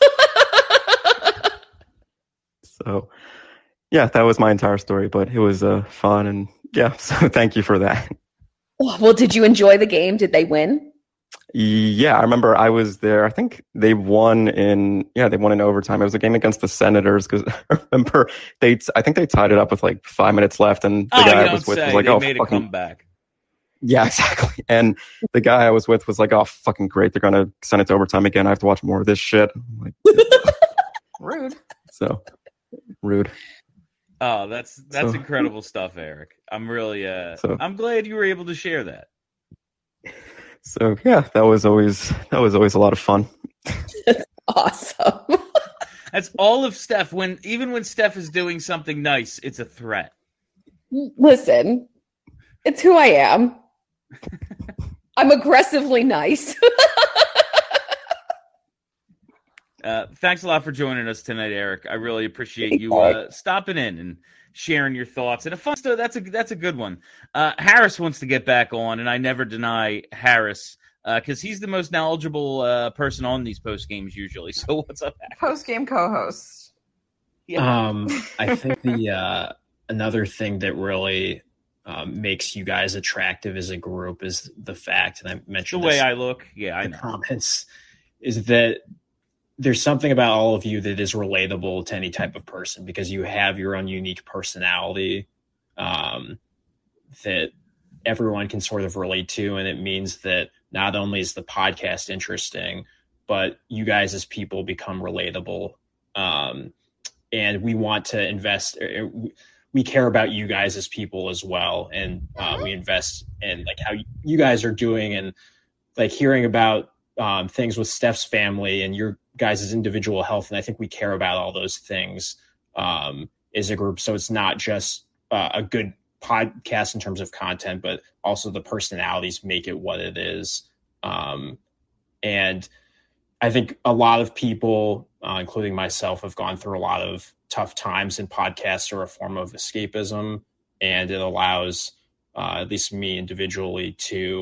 So, yeah, that was my entire story, but it was uh, fun, and yeah, so thank you for that. Well, did you enjoy the game? Did they win? Yeah, I remember I was there. I think they won in yeah, they won in overtime. It was a game against the Senators, because I remember they I think they tied it up with like five minutes left, and the Oh, you guy I don't was with say. was like, They "Oh, made a fucking comeback. yeah, exactly." And the guy I was with was like, "Oh, fucking great! They're gonna send it to overtime again. I have to watch more of this shit." I'm like, Rude. so rude. Oh, that's that's So- incredible stuff, Eric. I'm really uh So- I'm glad you were able to share that. So yeah, that was always that was always a lot of fun. Awesome. That's all of Steph. When even when Steph is doing something nice, it's a threat. Listen, it's who I am. I'm aggressively nice. Uh, thanks a lot for joining us tonight, Eric. I really appreciate you uh, stopping in and sharing your thoughts. And a fun story, that's a that's a good one. Uh, Harris wants to get back on, and I never deny Harris because uh, he's the most knowledgeable uh, person on these post games usually. So what's up, Harris? Post game co-host. Um, I think the uh, another thing that really um, makes you guys attractive as a group is the fact, and I The mentioned way this I look, yeah, I in know. the comments, is that there's something about all of you that is relatable to any type of person, because you have your own unique personality um, that everyone can sort of relate to. And it means that not only is the podcast interesting, but you guys as people become relatable. Um, and we want to invest, er, we care about you guys as people as well. And uh, we invest in like how you guys are doing, and like hearing about um, things with Steph's family and your guys' individual health. And I think we care about all those things um, as a group. So it's not just uh, a good podcast in terms of content, but also the personalities make it what it is. Um, and I think a lot of people, uh, including myself, have gone through a lot of tough times, and podcasts are a form of escapism. And it allows uh, at least me individually to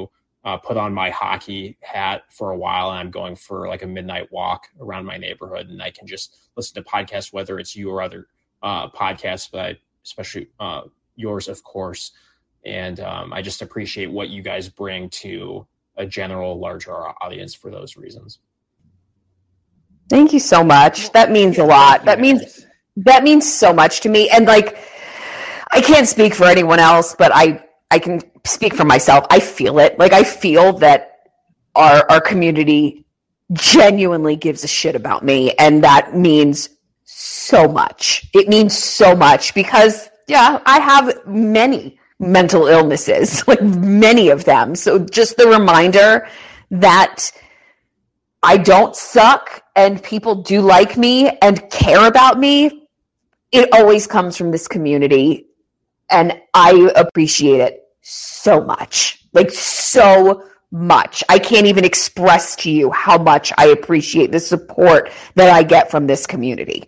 uh, put on my hockey hat for a while, and I'm going for like a midnight walk around my neighborhood, and I can just listen to podcasts, whether it's you or other uh, podcasts, but I, especially uh, yours, of course. And um, I just appreciate what you guys bring to a general, larger audience for those reasons. Thank you so much. That means a lot. That means that means so much to me. And like, I can't speak for anyone else, but I I can speak for myself. I feel it. Like, I feel that our our community genuinely gives a shit about me, and that means so much. It means so much because, yeah, I have many mental illnesses, like many of them. So just the reminder that I don't suck and people do like me and care about me, it always comes from this community. And I appreciate it so much, like so much. I can't even express to you how much I appreciate the support that I get from this community.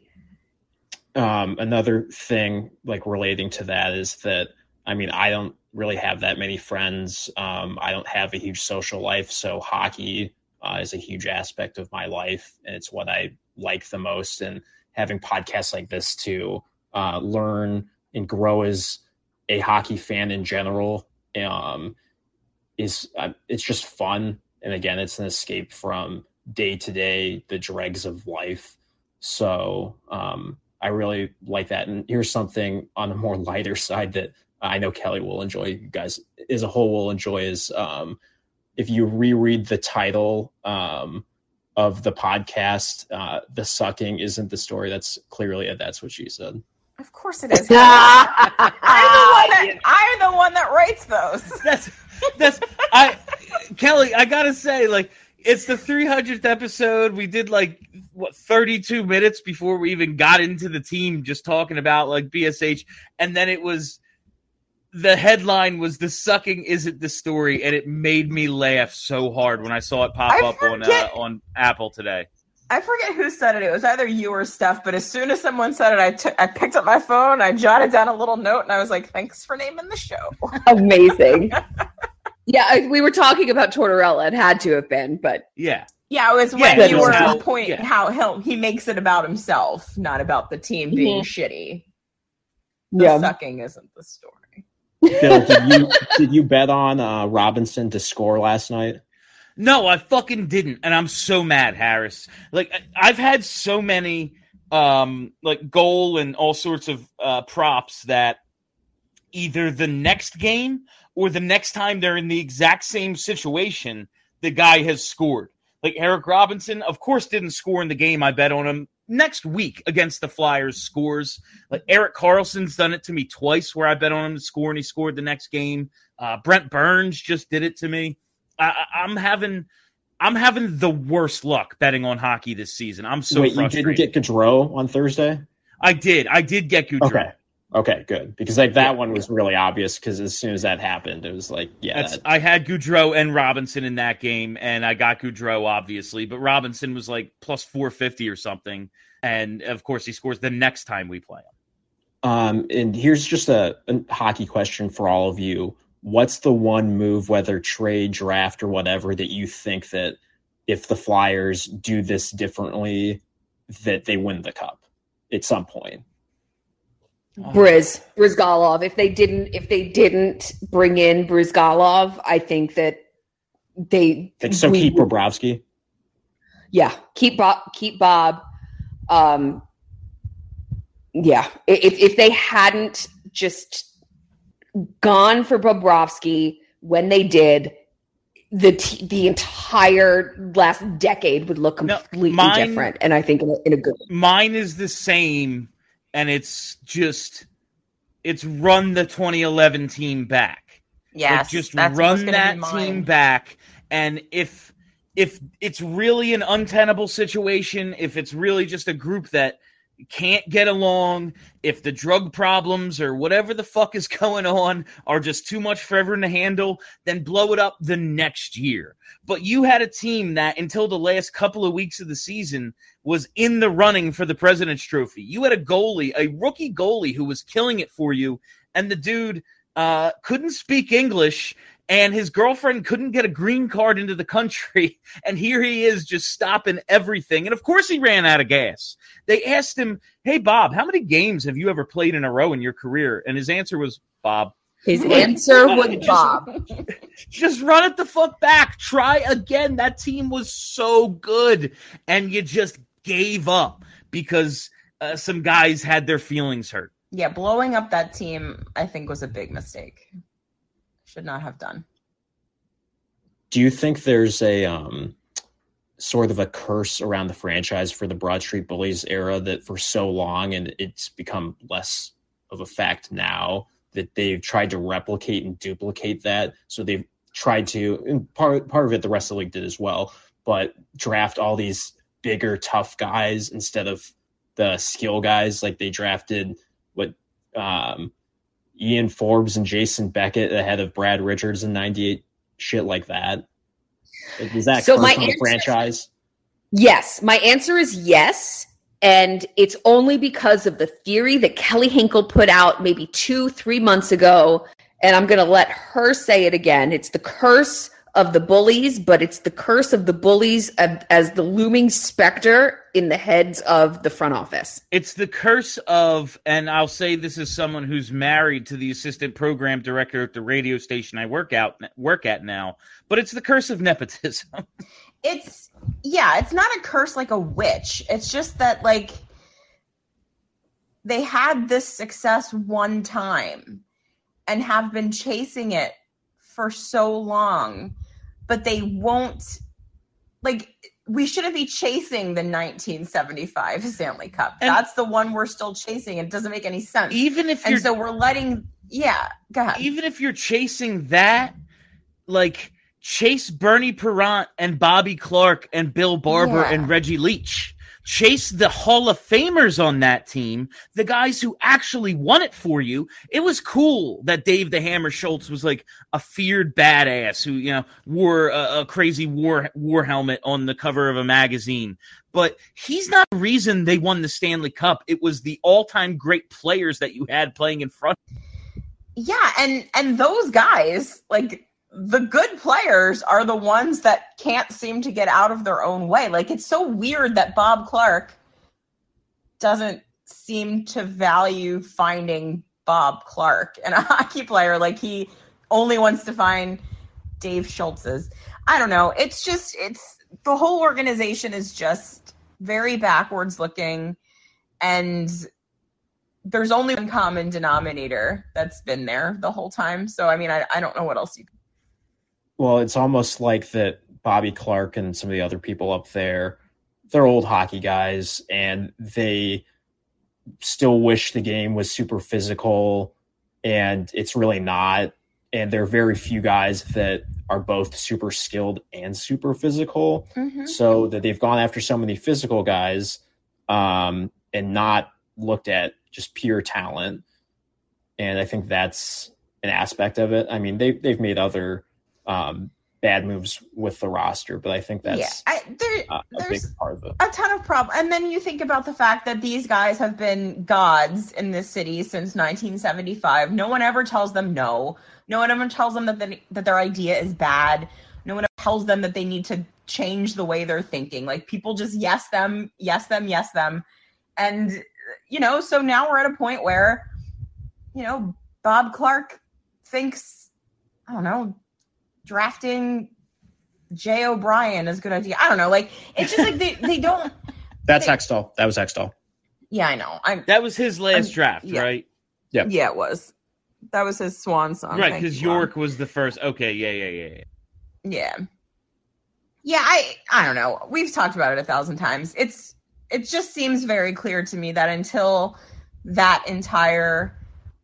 Um, another thing like relating to that is that, I mean, I don't really have that many friends. Um, I don't have a huge social life. So hockey uh, is a huge aspect of my life, and it's what I like the most. And having podcasts like this to uh, learn and grow as a hockey fan in general um, is uh, it's just fun. And again, it's an escape from day to day, the dregs of life. So um, I really like that. And here's something on a more lighter side that I know Kelly will enjoy, you guys as a whole will enjoy, is um, if you reread the title um, of the podcast, uh, The Sucking Isn't the Story. That's clearly a That's What She Said. Of course it is. I'm, the one that, I'm the one that writes those. That's, that's, I, Kelly, I gotta say, like, it's the three hundredth episode. We did like what thirty-two minutes before we even got into the team, just talking about like B S H, and then it was the headline was "The Sucking Isn't the Story," and it made me laugh so hard when I saw it pop I up on uh, on Apple today. I forget who said it. It was either you or Steph, but as soon as someone said it, I took, I picked up my phone, I jotted down a little note, and I was like, "Thanks for naming the show." Amazing. Yeah, I, we were talking about Tortorella. It had to have been, but yeah, yeah, it was when Yeah, you were how- point yeah. how he'll, he makes it about himself, not about the team being Mhm. shitty. The Yeah. sucking isn't the story. Phil, did you did you bet on uh, Robinson to score last night? No, I fucking didn't, and I'm so mad, Harris. Like, I- I've had so many, um, like, goal and all sorts of uh, props that either the next game or the next time they're in the exact same situation, the guy has scored. Like, Eric Robinson, of course, didn't score in the game. I bet on him. Next week against the Flyers, scores. Like, Eric Carlson's done it to me twice where I bet on him to score, and he scored the next game. Uh, Brent Burns just did it to me. I, I'm having, I'm having the worst luck betting on hockey this season. I'm so Wait, frustrated. you didn't get Gaudreau on Thursday? I did. I did get Gaudreau. Okay. Okay, good. Because like that one was really obvious because as soon as that happened, it was like, yeah. That's, that- I had Gaudreau and Robinson in that game, and I got Gaudreau, obviously. But Robinson was like plus four fifty or something. And, of course, he scores the next time we play him. Um, and here's just a, a hockey question for all of you. What's the one move, whether trade, draft, or whatever, that you think that if the Flyers do this differently, that they win the cup at some point? Briz, Brizgalov. If they didn't, if they didn't bring in Brizgalov, I think that they. So we keep would- Bobrovsky? Yeah, keep Bob. Keep Bob. Um, yeah, if if they hadn't just gone for Bobrovsky when they did, the t- the entire last decade would look completely mine- different. And I think in a, in a good. Mine is the same, and it's just it's run the twenty eleven team back. Yes, Like, just that's what's run gonna that be mine. team back, and if if it's really an untenable situation, if it's really just a group that can't get along, if the drug problems or whatever the fuck is going on are just too much for everyone to handle, then blow it up the next year. But you had a team that until the last couple of weeks of the season was in the running for the President's Trophy. You had a goalie, a rookie goalie who was killing it for you, and the dude uh, couldn't speak English and his girlfriend couldn't get a green card into the country, and here he is just stopping everything. And of course he ran out of gas. They asked him, hey, Bob, how many games have you ever played in a row in your career? And his answer was, Bob. His answer was just, Bob. Just run it the fuck back. Try again. That team was so good, and you just gave up because uh, some guys had their feelings hurt. Yeah, blowing up that team, I think, was a big mistake. Should not have done. Do you think there's a um, sort of a curse around the franchise for the Broad Street Bullies era that for so long, and it's become less of a fact now, that they've tried to replicate and duplicate that? So they've tried to, and part, part of it the rest of the league did as well, but draft all these bigger, tough guys instead of the skill guys. Like they drafted what um, Ian Forbes and Jason Beckett ahead of Brad Richards in ninety-eight, shit like that. Is that So curse my on the answer- franchise? Yes, my answer is yes. And it's only because of the theory that Kelly Hinkle put out maybe two, three months ago. And I'm going to let her say it again. It's the curse of the bullies, but it's the curse of the bullies as, as the looming specter in the heads of the front office. It's the curse of, and I'll say this as someone who's married to the assistant program director at the radio station I work out work at now, but it's the curse of nepotism. It's, yeah, it's not a curse like a witch. It's just that, like, they had this success one time and have been chasing it for so long, but they won't, like, we shouldn't be chasing the nineteen seventy-five Stanley Cup. And that's the one we're still chasing. It doesn't make any sense. Even if and you're, so we're letting, yeah, go ahead. Even if you're chasing that, like, chase Bernie Perrant and Bobby Clark and Bill Barber Yeah. and Reggie Leach. Chase the Hall of Famers on that team, the guys who actually won it for you. It was cool that Dave the Hammer Schultz was like a feared badass who, you know, wore a, a crazy war war helmet on the cover of a magazine. But he's not the reason they won the Stanley Cup. It was the all-time great players that you had playing in front. Yeah, and and those guys, like, the good players are the ones that can't seem to get out of their own way. Like, it's so weird that Bob Clark doesn't seem to value finding Bob Clark and a hockey player. Like, he only wants to find Dave Schultz's. I don't know. It's just, it's, the whole organization is just very backwards looking, and there's only one common denominator that's been there the whole time. So, I mean, I, I don't know what else you can. Well, it's almost like that Bobby Clark and some of the other people up there, they're old hockey guys, and they still wish the game was super physical, and it's really not. And there are very few guys that are both super skilled and super physical. Mm-hmm. So that they've gone after so many physical guys um, and not looked at just pure talent. And I think that's an aspect of it. I mean, they, they've made other um, bad moves with the roster, but I think that's yeah, I, there, uh, a big there's part of it. a ton of problems. And then you think about the fact that these guys have been gods in this city since nineteen seventy-five. No one ever tells them no. No one ever tells them that, they, that their idea is bad. No one ever tells them that they need to change the way they're thinking. Like, people just yes them, yes them, yes them. And, you know, so now we're at a point where, you know, Bob Clark thinks, I don't know, drafting Jay O'Brien is a good idea. I don't know. Like, it's just like they, they don't. That's they, Hextall. That was Hextall. Yeah, I know. I'm, That was his last I'm- draft, yeah. right? Yeah. Yeah, it was. That was his swan song. Right, Thank because you, Juan. York was the first. Okay, yeah, yeah, yeah, yeah. Yeah. Yeah, I I don't know. We've talked about it a thousand times. It's it just seems very clear to me that until that entire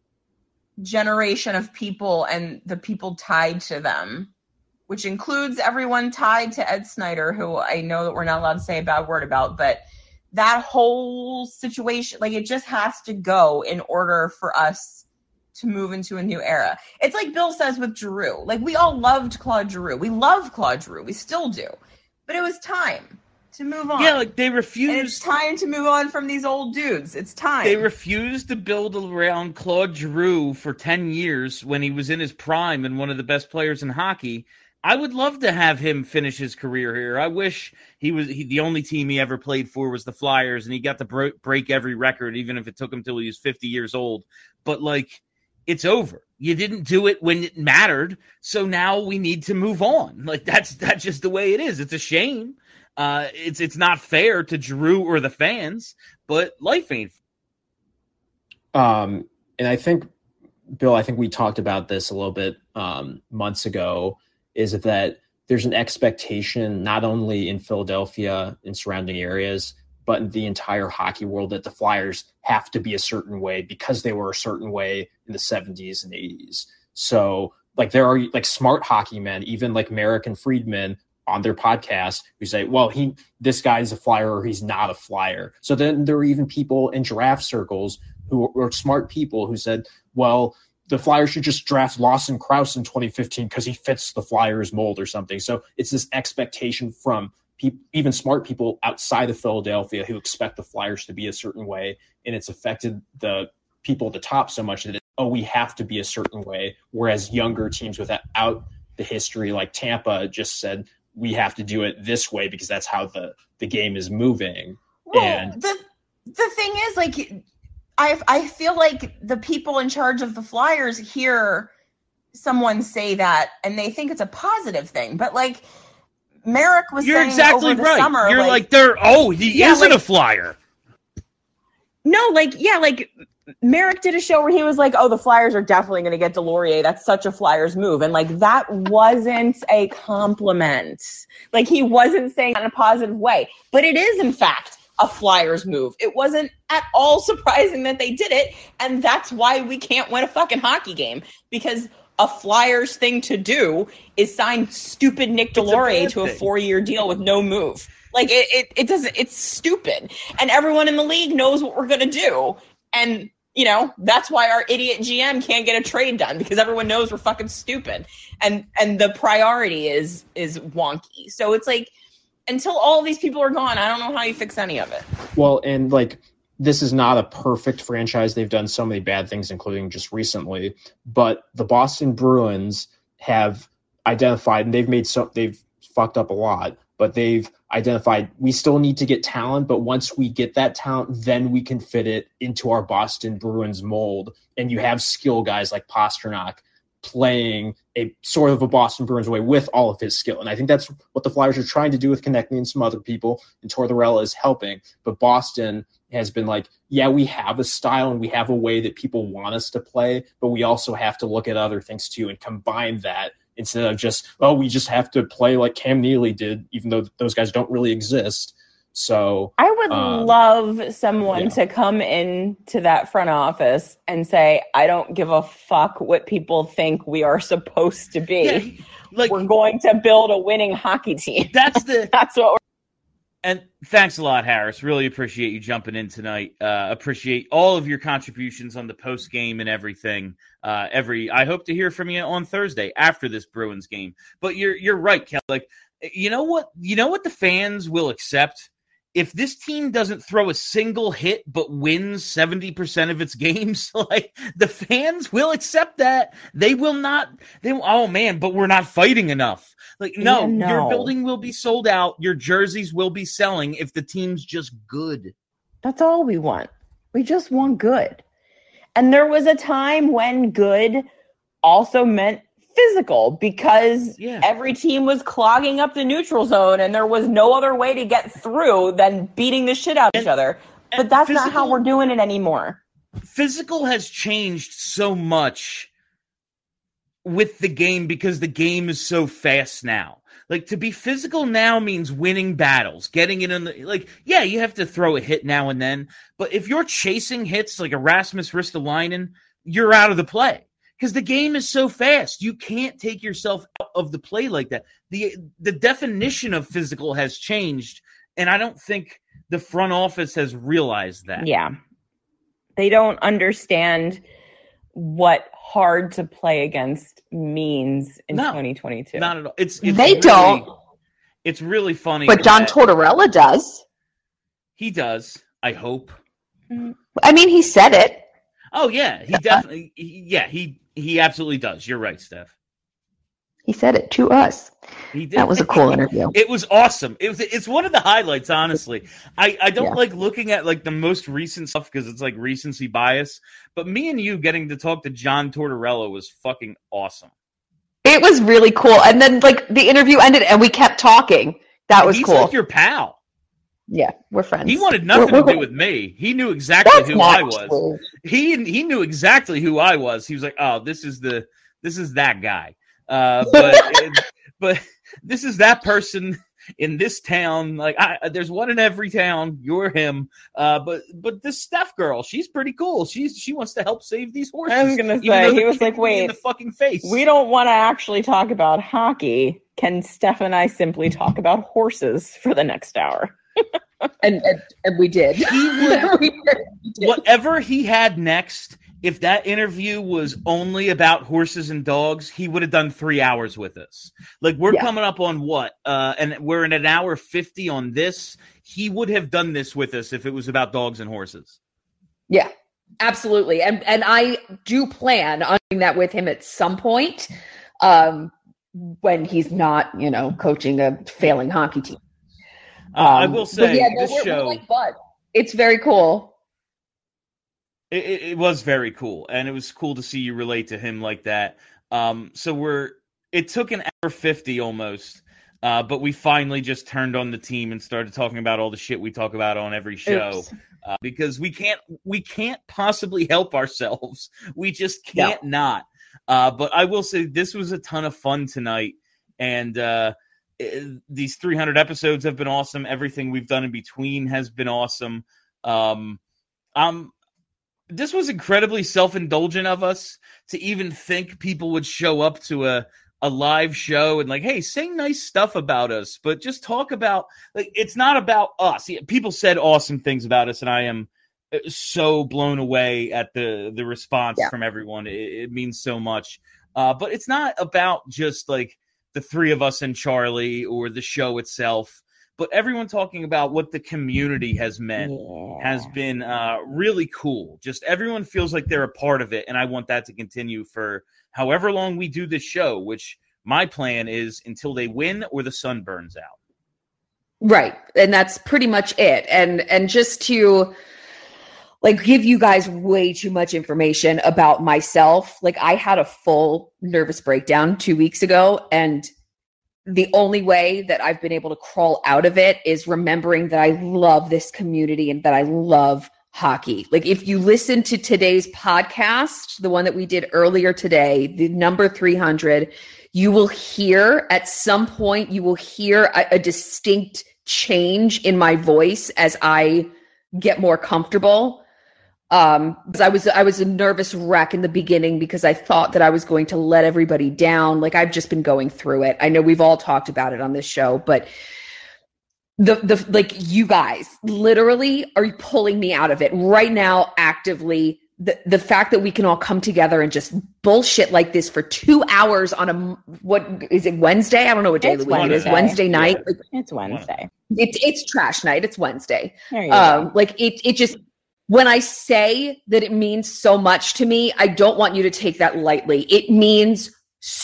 generation of people and the people tied to them, which includes everyone tied to Ed Snyder, who I know that we're not allowed to say a bad word about, but that whole situation, like, it just has to go in order for us to move into a new era. It's like Bill says with Giroux. Like, we all loved Claude Giroux. We love Claude Giroux. We still do. But it was time. to move on. Yeah, like they And refused. it's time to move on from these old dudes. It's time. They refused to build around Claude Giroux for ten years when he was in his prime and one of the best players in hockey. I would love to have him finish his career here. I wish he was he, the only team he ever played for was the Flyers, and he got to bro- break every record, even if it took him till he was fifty years old. But, like, it's over. You didn't do it when it mattered, so now we need to move on. Like, that's that's just the way it is. It's a shame. Uh, it's it's not fair to Giroux or the fans, but life ain't. Um, and I think, Bill, I think we talked about this a little bit um, months ago, is that there's an expectation not only in Philadelphia and surrounding areas, but in the entire hockey world that the Flyers have to be a certain way because they were a certain way in the seventies and eighties. So, like, there are like smart hockey men, even like Merrick and Friedman on their podcast, who say, well, he this guy's a Flyer or he's not a Flyer. So then there are even people in draft circles who are smart people who said, well, the Flyers should just draft Lawson Krause in twenty fifteen because he fits the Flyers mold or something. So it's this expectation from pe- even smart people outside of Philadelphia who expect the Flyers to be a certain way, and it's affected the people at the top so much that, it, oh, we have to be a certain way, whereas younger teams without the history like Tampa just said, we have to do it this way because that's how the, the game is moving. Well, and the the thing is, like, I I feel like the people in charge of the Flyers hear someone say that and they think it's a positive thing, but like Merrick was You're saying exactly over the right. summer, You're like, like, they're oh, he Yeah, isn't like- a Flyer. No, like, yeah, like Merrick did a show where he was like, oh, the Flyers are definitely going to get Delorier. That's such a Flyers move. And like, that wasn't a compliment. Like, he wasn't saying that in a positive way, but it is in fact a Flyers move. It wasn't at all surprising that they did it. And that's why we can't win a fucking hockey game, because a Flyers thing to do is sign stupid Nick Delorier to a thing. four-year deal with no move. Like, it, it, it doesn't, it's stupid. And everyone in the league knows what we're going to do. And, you know, that's why our idiot G M can't get a trade done, because everyone knows we're fucking stupid. And, and the priority is, is wonky. So it's like, until all these people are gone, I don't know how you fix any of it. Well, and like, this is not a perfect franchise. They've done so many bad things, including just recently. But the Boston Bruins have identified, and they've made so they've fucked up a lot, but they've identified we still need to get talent. But once we get that talent, then we can fit it into our Boston Bruins mold. And you have skill guys like Pasternak playing a sort of a Boston Bruins way with all of his skill. And I think that's what the Flyers are trying to do with Konechny and some other people, and Tortorella is helping. But Boston has been like, yeah, we have a style and we have a way that people want us to play, but we also have to look at other things too and combine that instead of just, oh, we just have to play like Cam Neely did, even though those guys don't really exist. So I would um, love someone yeah. to come in to that front office and say, I don't give a fuck what people think we are supposed to be. Yeah, like, we're going to build a winning hockey team. That's the that's what we're And thanks a lot, Harris. Really appreciate you jumping in tonight. Uh, appreciate all of your contributions on the post game and everything. Uh, every I hope to hear from you on Thursday after this Bruins game. But you're you're right, Kel. Like, you know what? You know what the fans will accept? If this team doesn't throw a single hit but wins seventy percent of its games, like, the fans will accept that. They will not. They oh man, but we're not fighting enough. Like, no, Yeah, no. your building will be sold out. Your jerseys will be selling if the team's just good. That's all we want. We just want good. And there was a time when good also meant physical, because Yeah. every team was clogging up the neutral zone and there was no other way to get through than beating the shit out of each other. But that's not how physical- we're doing it anymore. Physical has changed so much with the game because the game is so fast now. Like, to be physical now means winning battles, getting it in the, like, yeah, you have to throw a hit now and then, but if you're chasing hits like Erasmus Ristolainen, you're out of the play. Because the game is so fast. You can't take yourself out of the play like that. The the definition of physical has changed, and I don't think the front office has realized that. Yeah. They don't understand what hard to play against means in No, twenty twenty-two. Not at all. It's, it's They really- don't. it's really funny. But John that- Tortorella does. He does. I hope. I mean, he said it. Oh yeah, he definitely. He, yeah, he he absolutely does. You're right, Steph. He said it to us. He did. That was a cool interview. It was awesome. It was. It's one of the highlights, honestly. I, I don't Yeah. like looking at like the most recent stuff because it's like recency bias. But me and you getting to talk to John Tortorella was fucking awesome. It was really cool. And then like the interview ended and we kept talking. That was He's cool. like your pal. Yeah, we're friends. He wanted nothing We're- to we're- do with me. He knew exactly That's who not I was. true. He he knew exactly who I was. He was like, "Oh, this is the this is that guy." Uh, but it, but this is that person in this town. Like, I, there's one in every town. You're him. Uh, but but this Steph girl, she's pretty cool. She's she wants to help save these horses. I was gonna even say though he they're was like, kicking me in "Wait, the fucking face." we don't want to actually talk about hockey. Can Steph and I simply talk about horses for the next hour?" and, and and we did. He would, whatever he had next, if that interview was only about horses and dogs, he would have done three hours with us. Like, we're Yeah. coming up on what? Uh, and we're in an hour fifty on this. He would have done this with us if it was about dogs and horses. Yeah, absolutely. And and I do plan on doing that with him at some point, um, when he's not, you know, coaching a failing hockey team. Uh, I Um, will but say, yeah, no, this we're- we're show, like buds. It's very cool. it, it, it was very cool. And it was cool to see you relate to him like that. Um, so we're, it took an hour fifty almost. Uh, but we finally just turned on the team and started talking about all the shit we talk about on every show. Oops. Uh, because we can't we can't possibly help ourselves. We just can't not. Uh, but I will say this was a ton of fun tonight, and uh, it, these three hundred episodes have been awesome. Everything we've done in between has been awesome. Um, um, this was incredibly self-indulgent of us to even think people would show up to a a live show and like, hey, say nice stuff about us, but just talk about, like, it's not about us. People said awesome things about us, and I am so blown away at the the response Yeah. from everyone. It, it means so much. Uh, but it's not about just like the three of us and Charlie or the show itself, but everyone talking about what the community has meant has been uh, really cool. Just everyone feels like they're a part of it, and I want that to continue for however long we do this show, which my plan is until they win or the sun burns out. Right. And that's pretty much it. And and just to like give you guys way too much information about myself. Like, I had a full nervous breakdown two weeks ago, and the only way that I've been able to crawl out of it is remembering that I love this community and that I love hockey. Like, if you listen to today's podcast, the one that we did earlier today, the number three hundred, you will hear at some point, you will hear a, a distinct change in my voice as I get more comfortable. Um, because I was, I was a nervous wreck in the beginning because I thought that I was going to let everybody down. Like, I've just been going through it. I know we've all talked about it on this show, but the, the, like, you guys literally are pulling me out of it right now, actively. The, the fact that we can all come together and just bullshit like this for two hours on a, what is it, Wednesday? I don't know what day of It's the week it is. Wednesday. Wednesday night. Like, It's Wednesday. it's, it's trash night. It's Wednesday. There you Um, go. like it, it just, when I say that it means so much to me, I don't want you to take that lightly. It means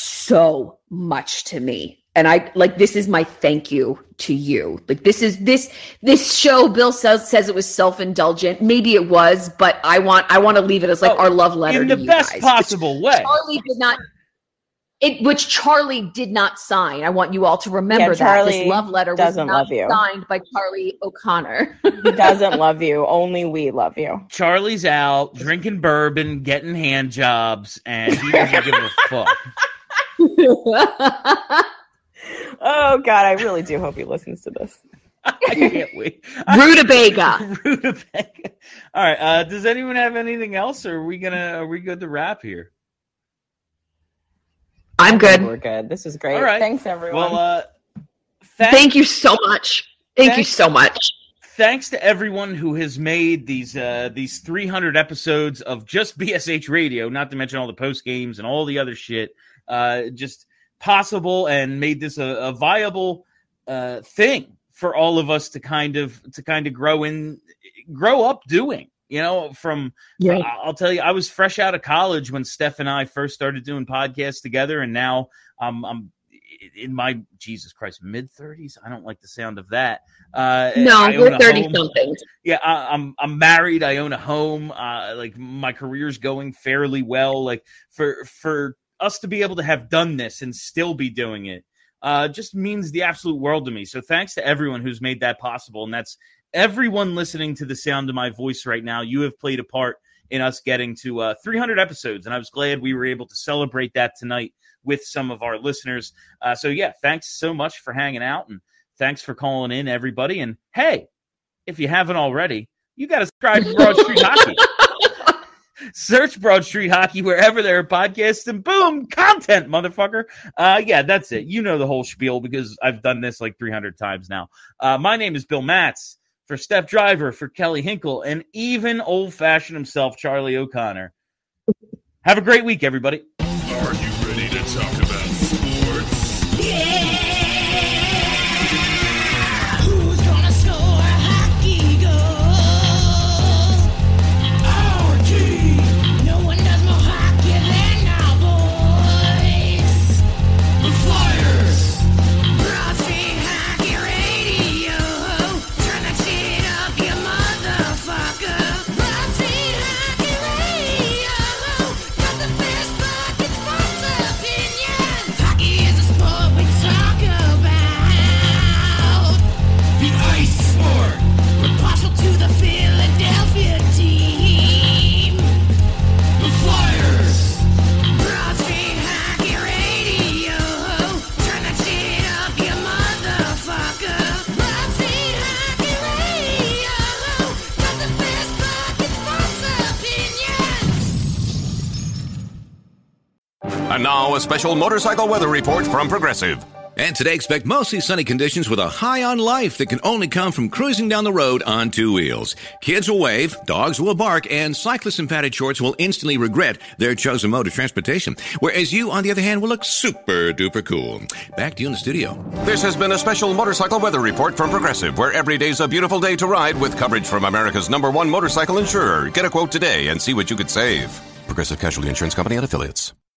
so much to me. And I like, this is my thank you to you. Like, this is this, this show, Bill says, says it was self-indulgent. Maybe it was, but I want, I want to leave it as like Oh, our love letter in to the you best guys. possible way. Charlie did not, it, which Charlie did not sign. I want you all to remember Yeah, that Charlie this love letter was doesn't not love you. signed by Charlie O'Connor. He doesn't love you. Only we love you. Charlie's out drinking bourbon, getting hand jobs, and he doesn't give a fuck. Oh God, I really do hope he listens to this. I can't wait. Rutabaga. Rutabaga. All right. Uh, does anyone have anything else, or are we gonna are we good to wrap here? I'm good. We're good. This is great. All right. Thanks, everyone. Well, uh, Thank you so much. Thank you Thanks. so much. Thanks to everyone who has made these uh, these three hundred episodes of just B S H Radio, not to mention all the post games and all the other shit, uh, just possible and made this a, a viable uh, thing for all of us to kind of to kind of grow in, grow up doing. You know, from yeah. I'll tell you, I was fresh out of college when Steph and I first started doing podcasts together, and now um, I'm in my Jesus Christ mid thirties. I don't like the sound of that. Uh, no, we're thirty something. Yeah, I, I'm I'm married. I own a home. Uh, like my career's going fairly well. Like for for us to be able to have done this and still be doing it, uh, just means the absolute world to me. So thanks to everyone who's made that possible, and that's everyone listening to the sound of my voice right now. You have played a part in us getting to uh, three hundred episodes, and I was glad we were able to celebrate that tonight with some of our listeners. Uh, so, yeah, thanks so much for hanging out, and thanks for calling in, everybody. And, hey, if you haven't already, you got to subscribe to Broad Street Hockey. Search Broad Street Hockey wherever there are podcasts, and boom, content, motherfucker. Uh, yeah, that's it. You know the whole spiel because I've done this like three hundred times now. Uh, my name is Bill Matz. For Steph Driver, for Kelly Hinkle, and even old-fashioned himself, Charlie O'Connor. Have a great week, everybody. Are you ready to talk about sports? Yeah! Who's gonna score a hockey goal? Our team! No one does more hockey than our boys! The Flyers! Broad Street Hockey Radio! Turn that shit up, you motherfucker! Broad Street Hockey Radio! Got the best fucking sports opinions! Hockey is a sport we talk about! The ice sport! We're partial to the Philadelphia team! The Flyers! Broad Street Hockey Radio! Turn that shit up, you motherfucker! Broad Street Hockey Radio! Got the best fucking sports opinions! And now a special motorcycle weather report from Progressive. And today expect mostly sunny conditions with a high on life that can only come from cruising down the road on two wheels. Kids will wave, dogs will bark, and cyclists in padded shorts will instantly regret their chosen mode of transportation. Whereas you, on the other hand, will look super duper cool. Back to you in the studio. This has been a special motorcycle weather report from Progressive, where every day's a beautiful day to ride with coverage from America's number one motorcycle insurer. Get a quote today and see what you could save. Progressive Casualty Insurance Company and Affiliates.